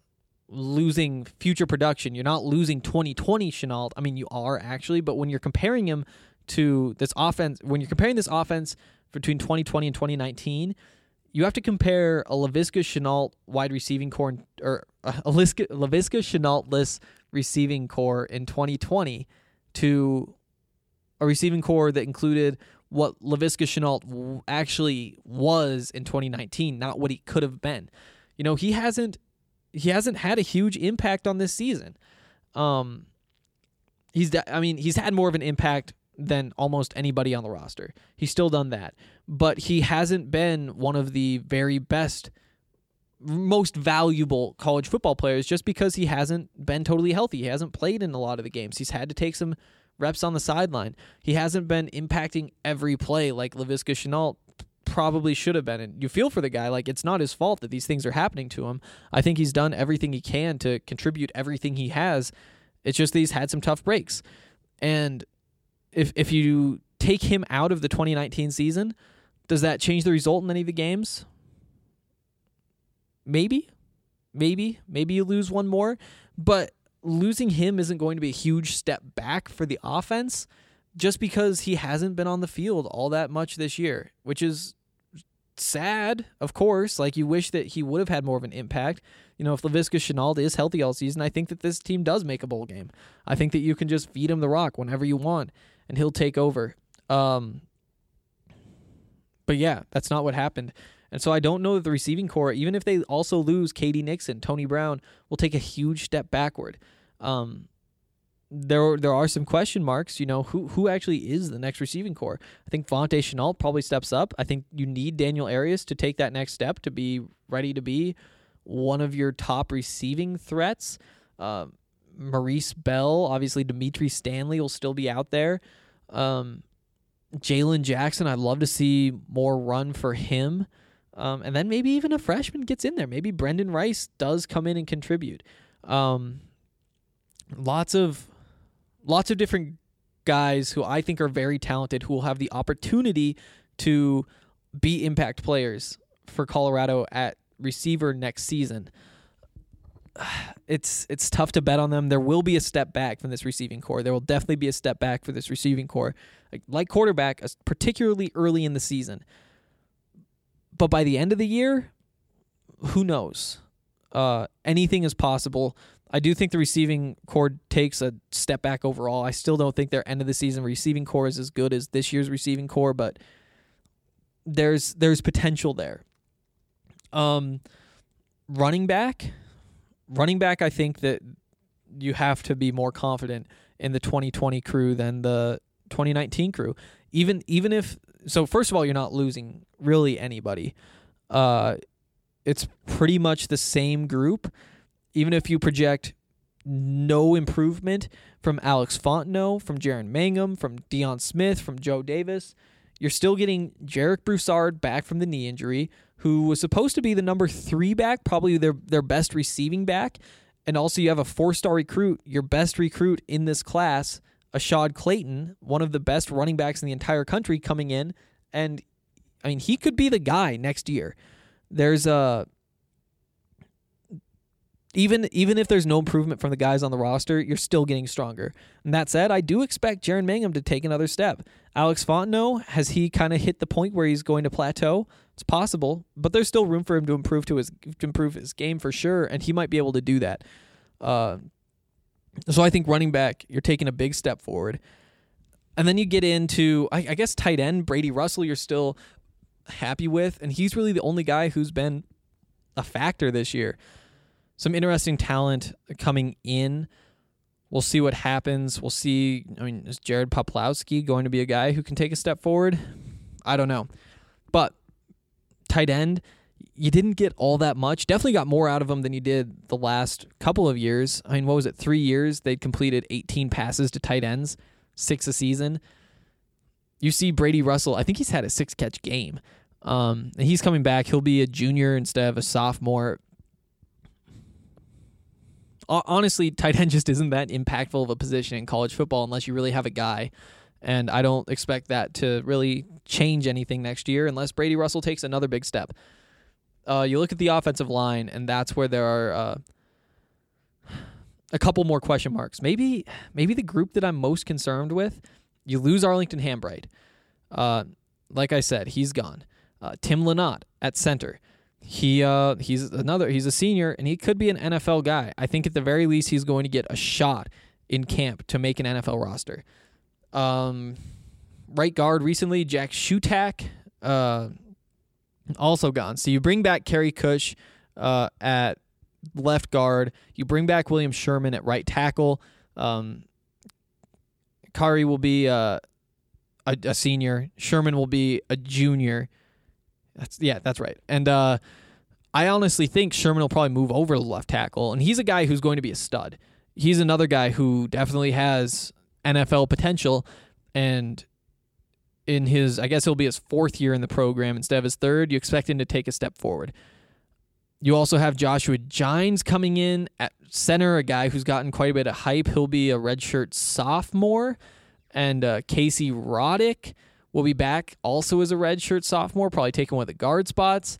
losing future production. You're not losing twenty twenty Shenault. I mean, you are actually, but when you're comparing him to this offense, when you're comparing this offense between twenty twenty and twenty nineteen, you have to compare a Laviska Shenault wide receiving core, or a Laviska, Laviska Shenault-less receiving core in twenty twenty to a receiving core that included what Laviska Shenault actually was in twenty nineteen, not what he could have been. You know, he hasn't he hasn't had a huge impact on this season. Um, he's I mean, he's had more of an impact than almost anybody on the roster. He's still done that, but he hasn't been one of the very best, most valuable college football players just because he hasn't been totally healthy. He hasn't played in a lot of the games. He's had to take some reps on the sideline. He hasn't been impacting every play like Laviska Shenault probably should have been. And you feel for the guy, like it's not his fault that these things are happening to him. I think he's done everything he can to contribute everything he has. It's just that he's had some tough breaks. And if if you take him out of the twenty nineteen season, does that change the result in any of the games? Maybe. Maybe. Maybe you lose one more. But losing him isn't going to be a huge step back for the offense just because he hasn't been on the field all that much this year, which is sad, of course. Like, you wish that he would have had more of an impact. You know, if Laviska Shenault is healthy all season, I think that this team does make a bowl game. I think that you can just feed him the rock whenever you want, and he'll take over. Um, but yeah, that's not what happened. And so I don't know that the receiving core, even if they also lose K D Nixon, Tony Brown, will take a huge step backward. Um, there, there are some question marks. You know, who who actually is the next receiving core? I think Vontae Shenault probably steps up. I think you need Daniel Arias to take that next step to be ready to be one of your top receiving threats. Uh, Maurice Bell, obviously Dimitri Stanley will still be out there. Um, Jalen Jackson, I'd love to see more run for him. Um, and then maybe even a freshman gets in there. Maybe Brendan Rice does come in and contribute. Um, lots of lots of different guys who I think are very talented who will have the opportunity to be impact players for Colorado at receiver next season. It's it's tough to bet on them. There will be a step back from this receiving core. There will definitely be a step back for this receiving core, like, like quarterback, particularly early in the season. But by the end of the year, who knows? Uh, anything is possible. I do think the receiving core takes a step back overall. I still don't think their end of the season receiving core is as good as this year's receiving core, but there's there's potential there. Um, running back, running back. I think that you have to be more confident in the twenty twenty crew than the twenty nineteen crew. Even even if so, first of all, you're not losing really anybody. Uh, it's pretty much the same group. Even if you project no improvement from Alex Fontenot, from Jaron Mangum, from Deion Smith, from Joe Davis, you're still getting Jarek Broussard back from the knee injury, who was supposed to be the number three back, probably their, their best receiving back. And also you have a four-star recruit, your best recruit in this class, Ashad Clayton, one of the best running backs in the entire country, coming in. And, I mean, he could be the guy next year. There's a... Even even if there's no improvement from the guys on the roster, you're still getting stronger. And that said, I do expect Jaron Mangum to take another step. Alex Fontenot, has he kind of hit the point where he's going to plateau? It's possible, but there's still room for him to improve to his to improve his game for sure, and he might be able to do that. Uh, so I think running back, you're taking a big step forward. And then you get into, I, I guess, tight end, Brady Russell, you're still happy with, and he's really the only guy who's been a factor this year. Some interesting talent coming in. We'll see what happens. We'll see. I mean, is Jared Poplowski going to be a guy who can take a step forward? I don't know. But tight end, you didn't get all that much. Definitely got more out of them than you did the last couple of years. I mean, what was it? Three years? They'd completed eighteen passes to tight ends, six a season. You see Brady Russell, I think he's had a six-catch game. Um, and he's coming back. He'll be a junior instead of a sophomore. Honestly, tight end just isn't that impactful of a position in college football unless you really have a guy. And I don't expect that to really change anything next year unless Brady Russell takes another big step. Uh, you look at the offensive line, and that's where there are uh, a couple more question marks. Maybe maybe the group that I'm most concerned with, you lose Arlington Hambright. Uh, like I said, he's gone. Uh, Tim Lynott at center. He uh, he's another. He's a senior, and he could be an N F L guy. I think at the very least he's going to get a shot in camp to make an N F L roster. Um, right guard recently, Jack Shutak, uh, also gone. So you bring back Kerry Cush uh, at left guard. You bring back William Sherman at right tackle. Um, Kari will be uh, a, a senior. Sherman will be a junior. That's yeah, that's right. And uh, I honestly think Sherman will probably move over to left tackle, and he's a guy who's going to be a stud. He's another guy who definitely has N F L potential, and in his, I guess it'll be his fourth year in the program instead of his third, you expect him to take a step forward. You also have Joshua Gines coming in at center, a guy who's gotten quite a bit of hype. He'll be a redshirt sophomore, and uh, Casey Roddick will be back also as a redshirt sophomore, probably taking one of the guard spots.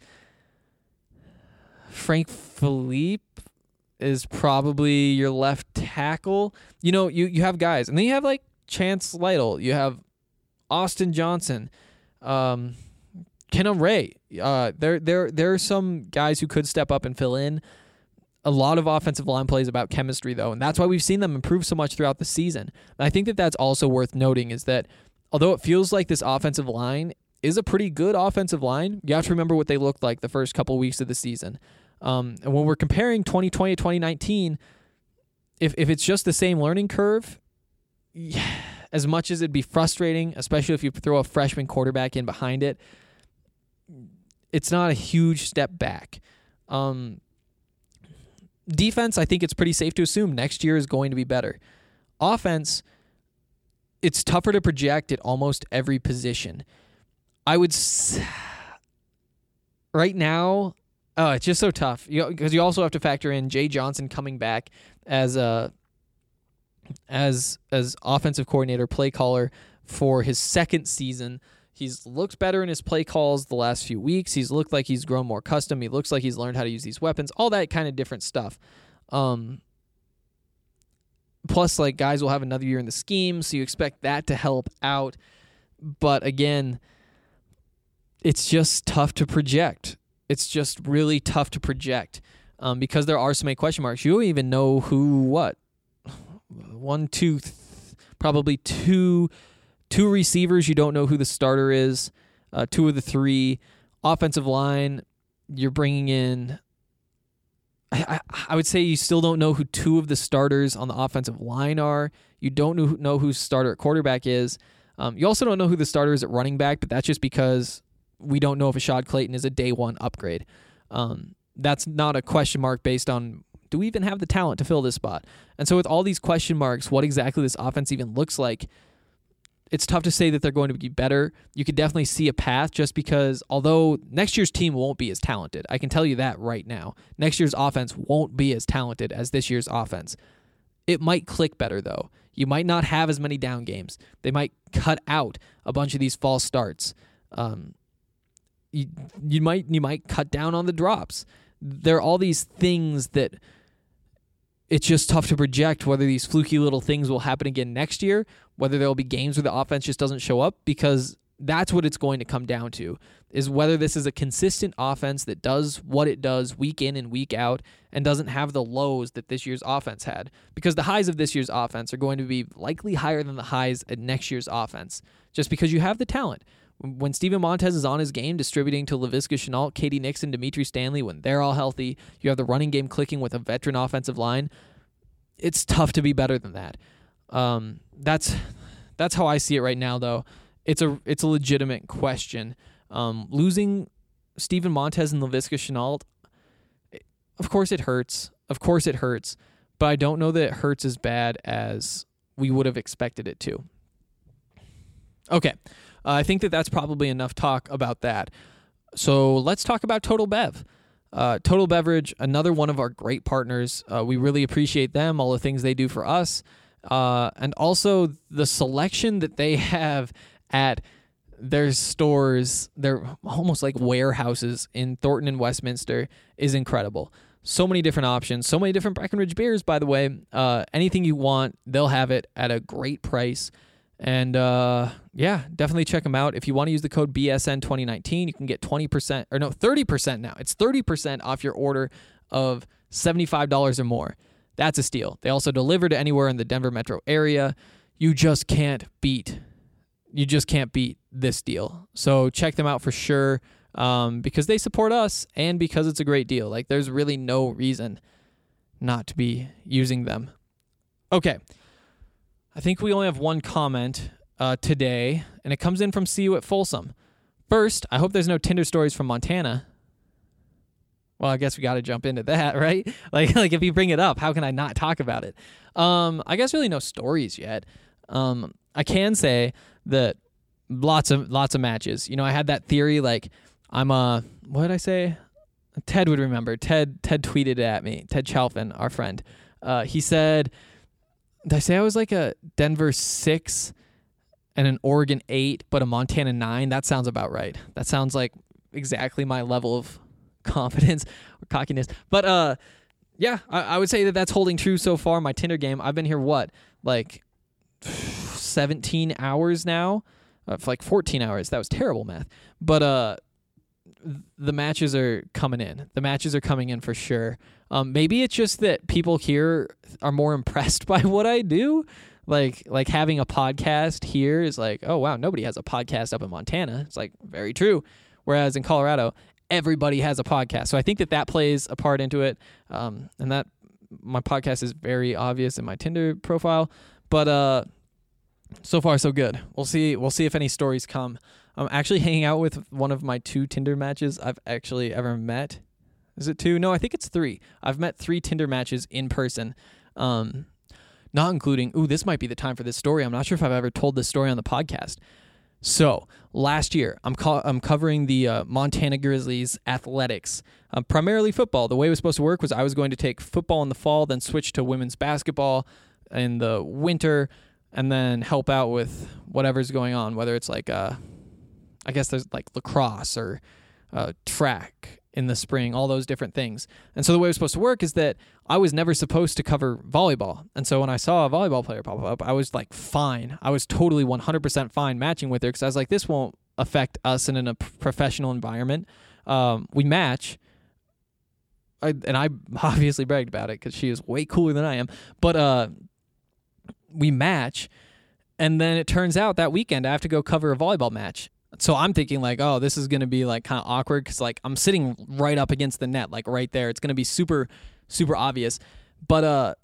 Frank Philippe is probably your left tackle. You know, you, you have guys. And then you have, like, Chance Lytle. You have Austin Johnson. Um, Kenan Ray. Uh, there, there, there are some guys who could step up and fill in. A lot of offensive line plays about chemistry, though, and that's why we've seen them improve so much throughout the season. And I think that that's also worth noting is that although it feels like this offensive line is a pretty good offensive line, you have to remember what they looked like the first couple weeks of the season. Um, and when we're comparing twenty twenty to twenty nineteen, if if it's just the same learning curve, yeah, as much as it'd be frustrating, especially if you throw a freshman quarterback in behind it, it's not a huge step back. Um, defense, I think it's pretty safe to assume next year is going to be better. Offense, it's tougher to project at almost every position. I would s- right now, oh, it's just so tough because you, you also have to factor in Jay Johnson coming back as a as as offensive coordinator, play caller for his second season. He's looked better in his play calls the last few weeks. He's looked like he's grown more custom. He looks like he's learned how to use these weapons, all that kind of different stuff. Um, plus, like, guys will have another year in the scheme, so you expect that to help out. But again, it's just tough to project. It's just really tough to project um, because there are so many question marks. You don't even know who, what, one, two, th- probably two, two receivers. You don't know who the starter is. Uh, two of the three. Offensive line, you're bringing in. I, I, I would say you still don't know who two of the starters on the offensive line are. You don't know, know who starter at quarterback is. Um, you also don't know who the starter is at running back, but that's just because we don't know if Ashad Clayton is a day one upgrade. Um, that's not a question mark based on, do we even have the talent to fill this spot? And so with all these question marks, what exactly this offense even looks like, it's tough to say that they're going to be better. You could definitely see a path just because although next year's team won't be as talented, I can tell you that right now. Next year's offense won't be as talented as this year's offense. It might click better, though. You might not have as many down games. They might cut out a bunch of these false starts. Um, you, you might you might cut down on the drops. There are all these things that it's just tough to project whether these fluky little things will happen again next year, whether there will be games where the offense just doesn't show up, because that's what it's going to come down to, is whether this is a consistent offense that does what it does week in and week out and doesn't have the lows that this year's offense had. Because the highs of this year's offense are going to be likely higher than the highs at next year's offense, just because you have the talent. When Steven Montez is on his game, distributing to Laviska Shenault, Katie Nixon, Dimitri Stanley, when they're all healthy, you have the running game clicking with a veteran offensive line, it's tough to be better than that. Um, that's that's how I see it right now, though. It's a it's a legitimate question. Um, losing Steven Montez and Laviska Shenault, of course it hurts. Of course it hurts. But I don't know that it hurts as bad as we would have expected it to. Okay. Uh, I think that that's probably enough talk about that. So let's talk about Total Bev. Uh, Total Beverage, another one of our great partners. Uh, we really appreciate them, all the things they do for us, uh, and also the selection that they have at their stores. They're almost like warehouses in Thornton and Westminster is incredible. So many different options, so many different Breckenridge beers, by the way. Uh, anything you want, they'll have it at a great price. And uh, yeah, definitely check them out. If you want to use the code B S N twenty nineteen, you can get twenty percent, or no, thirty percent now. It's thirty percent off your order of seventy-five dollars or more. That's a steal. They also deliver to anywhere in the Denver metro area. You just can't beat, you just can't beat this deal. So check them out for sure, um, because they support us and because it's a great deal. Like, there's really no reason not to be using them. Okay. I think we only have one comment uh, today, and it comes in from See You at Folsom. First, I hope there's no Tinder stories from Montana. Well, I guess we got to jump into that, right? Like, like if you bring it up, how can I not talk about it? Um, I guess really no stories yet. Um, I can say that lots of lots of matches. You know, I had that theory, like I'm a what did I say? Ted would remember. Ted Ted tweeted it at me. Ted Chalfin, our friend. Uh, he said, did I say I was like a Denver six and an Oregon eight, but a Montana nine? That sounds about right. That sounds like exactly my level of confidence or cockiness. But uh, yeah, I, I would say that that's holding true so far. My Tinder game, I've been here, what, like seventeen hours now? Uh, for like fourteen hours. That was terrible math. But uh, the matches are coming in. The matches are coming in for sure. Um, maybe it's just that people here are more impressed by what I do. Like, like having a podcast here is like, oh, wow, nobody has a podcast up in Montana. It's like, very true. Whereas in Colorado, everybody has a podcast. So I think that that plays a part into it. Um, and that my podcast is very obvious in my Tinder profile. But uh, so far, so good. We'll see. We'll see if any stories come. I'm actually hanging out with one of my two Tinder matches I've actually ever met. Is it two? No, I think it's three. I've met three Tinder matches in person, um, not including, ooh, this might be the time for this story. I'm not sure if I've ever told this story on the podcast. So last year, I'm co- I'm covering the uh, Montana Grizzlies athletics, uh, primarily football. The way it was supposed to work was I was going to take football in the fall, then switch to women's basketball in the winter, and then help out with whatever's going on, whether it's like, uh, I guess there's like lacrosse or uh, track in the spring, all those different things. And so the way it was supposed to work is that I was never supposed to cover volleyball. And so when I saw a volleyball player pop up, I was like, fine. I was totally one hundred percent fine matching with her because I was like, this won't affect us in a professional environment. Um, we match. I, and I obviously bragged about it because she is way cooler than I am. But uh, we match. And then it turns out that weekend I have to go cover a volleyball match. So I'm thinking like, oh, this is going to be like kind of awkward because like I'm sitting right up against the net, like right there. It's going to be super, super obvious. But uh,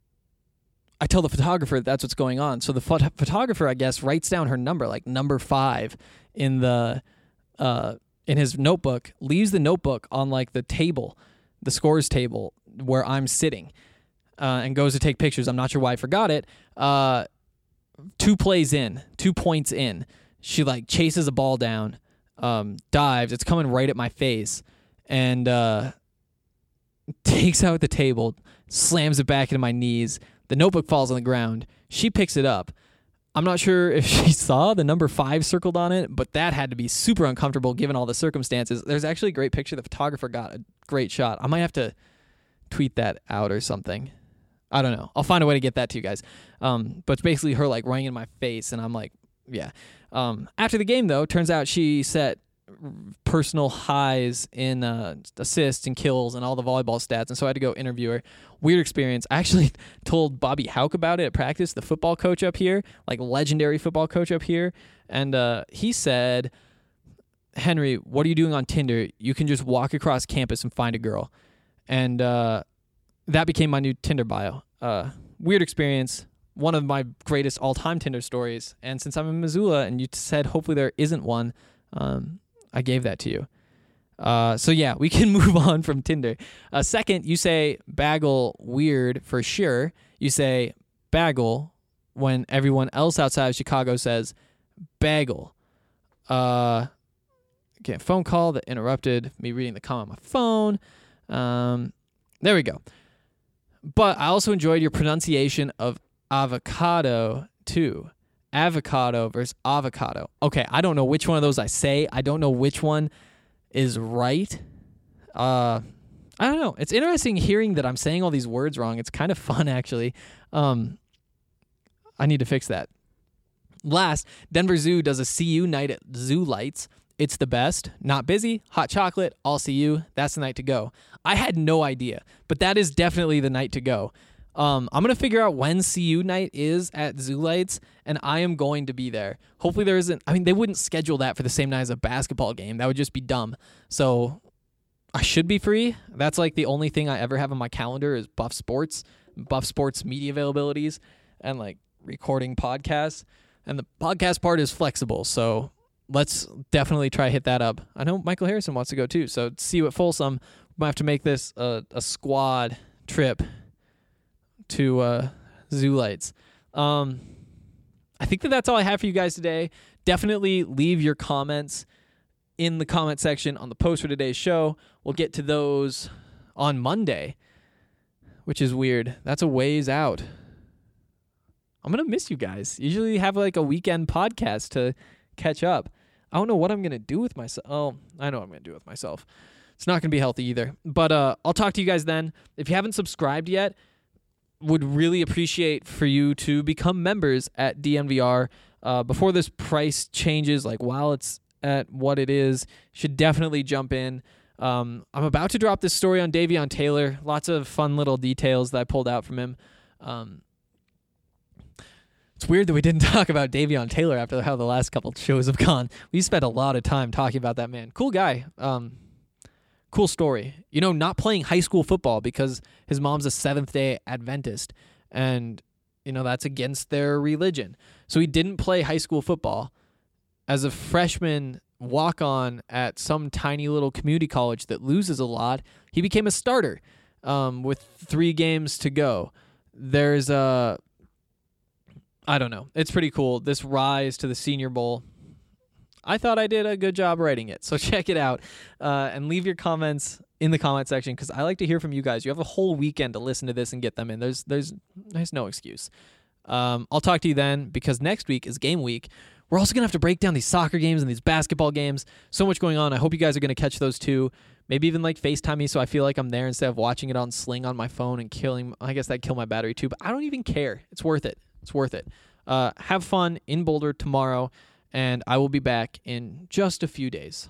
I tell the photographer that that's what's going on. So the phot- photographer, I guess, writes down her number, like number five in the uh, in his notebook, leaves the notebook on like the table, the scores table where I'm sitting, uh, and goes to take pictures. I'm not sure why I forgot it. Uh, two plays in, two points in. She like chases a ball down, um, dives. It's coming right at my face, and uh, takes out the table, slams it back into my knees. The notebook falls on the ground. She picks it up. I'm not sure if she saw the number five circled on it, but that had to be super uncomfortable given all the circumstances. There's actually a great picture. The photographer got a great shot. I might have to tweet that out or something. I don't know. I'll find a way to get that to you guys. Um, but it's basically her like running in my face, and I'm like, yeah. Um, after the game, though, turns out she set personal highs in uh, assists and kills and all the volleyball stats, and so I had to go interview her. Weird experience. I actually told Bobby Houck about it at practice, the football coach up here, like legendary football coach up here, and uh, he said, Henry, what are you doing on Tinder? You can just walk across campus and find a girl. And uh, that became my new Tinder bio. Uh, weird experience. One of my greatest all-time Tinder stories. And since I'm in Missoula and you said hopefully there isn't one, um, I gave that to you. Uh, so yeah, we can move on from Tinder. Uh, second, you say bagel weird for sure. You say bagel when everyone else outside of Chicago says bagel. Uh, okay, phone call that interrupted me reading the comment on my phone. Um, there we go. But I also enjoyed your pronunciation of avocado too. Avocado versus avocado. Okay, I don't know which one of those I say. I don't know which one is right. Uh, I don't know. It's interesting hearing that I'm saying all these words wrong. It's kind of fun, actually. Um, I need to fix that. Last, Denver Zoo does a C U night at Zoo Lights. It's the best. Not busy, hot chocolate, all C U. That's the night to go. I had no idea, but that is definitely the night to go. Um, I'm going to figure out when C U night is at Zoo Lights, and I am going to be there. Hopefully there isn't... I mean, they wouldn't schedule that for the same night as a basketball game. That would just be dumb. So I should be free. That's like the only thing I ever have on my calendar is Buff Sports, Buff Sports media availabilities, and like recording podcasts. And the podcast part is flexible, so let's definitely try to hit that up. I know Michael Harrison wants to go too, so see you at Folsom. We might have to make this a, a squad trip to uh, Zoo Lights. Um, I think that that's all I have for you guys today. Definitely leave your comments in the comment section on the post for today's show. We'll get to those on Monday, which is weird. That's a ways out. I'm going to miss you guys. Usually have like a weekend podcast to catch up. I don't know what I'm going to do with myself. Oh, I know what I'm going to do with myself. It's not going to be healthy either. But uh, I'll talk to you guys then. If you haven't subscribed yet, would really appreciate for you to become members at D N V R uh, before this price changes, like while it's at what it is. Should definitely jump in. Um, I'm about to drop this story on Davion Taylor. Lots of fun little details that I pulled out from him. Um, it's weird that we didn't talk about Davion Taylor after how the last couple shows have gone. We spent a lot of time talking about that man. Cool guy. Um, Cool story. You know, not playing high school football because his mom's a Seventh-day Adventist, and, you know, that's against their religion. So he didn't play high school football. As a freshman walk-on at some tiny little community college that loses a lot, he became a starter um, with three games to go. There's a... I don't know. It's pretty cool. This rise to the Senior Bowl... I thought I did a good job writing it, so check it out uh, and leave your comments in the comment section because I like to hear from you guys. You have a whole weekend to listen to this and get them in. There's there's there's no excuse. Um, I'll talk to you then because next week is game week. We're also going to have to break down these soccer games and these basketball games. So much going on. I hope you guys are going to catch those too. Maybe even like FaceTime me so I feel like I'm there instead of watching it on Sling on my phone and killing. I guess that'd kill my battery too, but I don't even care. It's worth it. It's worth it. Uh, have fun in Boulder tomorrow. And I will be back in just a few days.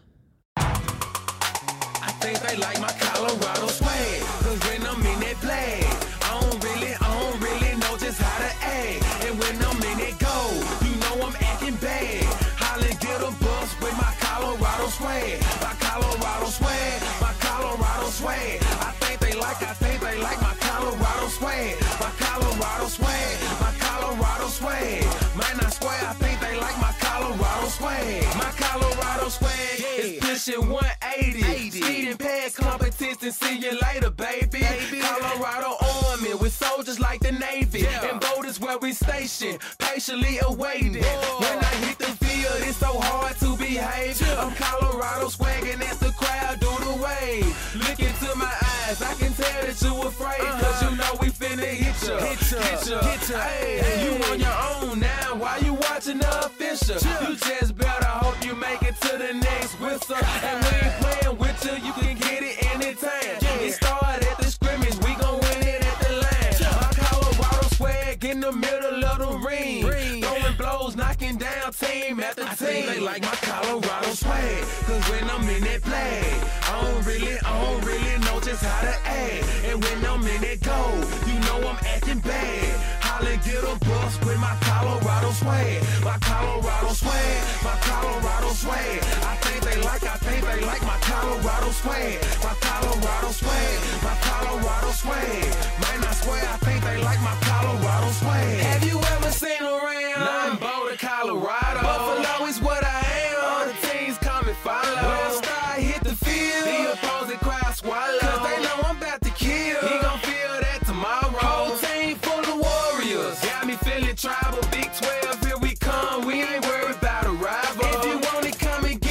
I think they like my Colorado swag, cause when I'm in that play, I don't really, I don't really know just how to act. And when I'm in that go, you know I'm acting bad. Holla, get a bus with my Colorado swag, my Colorado swag, my Colorado swag. I think they like, I think they like my Colorado swag, my Colorado swag, my Colorado swag. Man, I swear, I think they like my Colorado swag. My Colorado swag yeah. is pushing one eighty. Speeding past competition, see you later, baby. baby. Colorado Army with soldiers like the Navy. Yeah. And Boulder's where we station, patiently awaiting. Whoa. When I hit the field, it's so hard to behave. Yeah. I'm Colorado swagging as the crowd do the wave. Look into my eyes, I can tell that you afraid. Uh-huh. Cause you know we finna hit ya. Hit ya, hit ya, hit ya. Hey, hey. You on your own now, why you watching the official? Yeah. You just better hope you make it to the next whistle. And we ain't playing with you, you can get it anytime. Yeah. It started at the scrimmage, we gon' win it at the line. Yeah. My Colorado swag in the middle of the ring. ring. Throwing blows, knocking down team after team. I think they like my Colorado swag, cause when I'm in that play, I don't really, I don't really know just how to act. And when I'm in that go, you know I'm acting bad. Holla, get a bus with my Colorado swag, my Colorado swag, my Colorado swag. I think they like, I think they like my Colorado swag, my Colorado swag, my Colorado swag. Man, I swear, I think they like my Colorado swag. Have you ever seen around? Nah, I'm Boulder, Colorado. Buffalo is what I am. All the teams come and follow. When I start hit the field, the opposing crowd swallow. Cause they know I'm about to kill. He gon' feel that tomorrow. Whole team full of warriors. Got me feeling tribal. Big twelve, here we come. We ain't worried about a rival. If you want it, come and get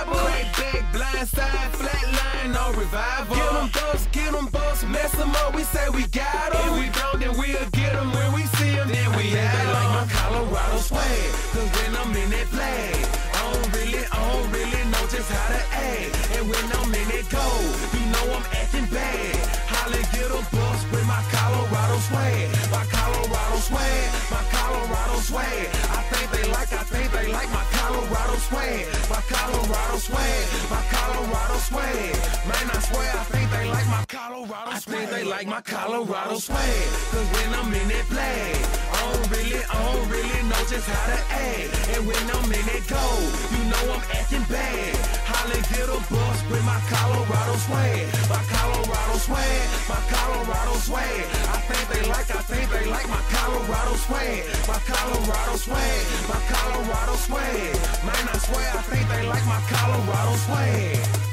revival. Crack back, blind side, flat line, no revival. Get them bucks, get them bucks, mess them up, we say we got them. If we don't, then we'll get them when we see them, then we have them. Like my Colorado swag, cause when I'm in that flag, I don't really, I don't really know just how to act. And when I'm in that gold, you know I'm acting bad. Holla, get a bus with my Colorado swag. My Colorado swag, my Colorado swag. I think they like, I think they like my Colorado swag. My Colorado swag, my Colorado swag. Man, I swear, I think they like my Colorado swag. I think they like my Colorado swag. Cause when I'm in that flag, I don't really, I don't really know just how to act. And when I'm in that gold, you know I'm acting bad. Holla, get a bus with my Colorado swag. My Colorado swag, my Colorado swag. I think they like, I think they like my Colorado swag. My Colorado swag, my Colorado swag. Man, I swear, I think they like my Colorado swag.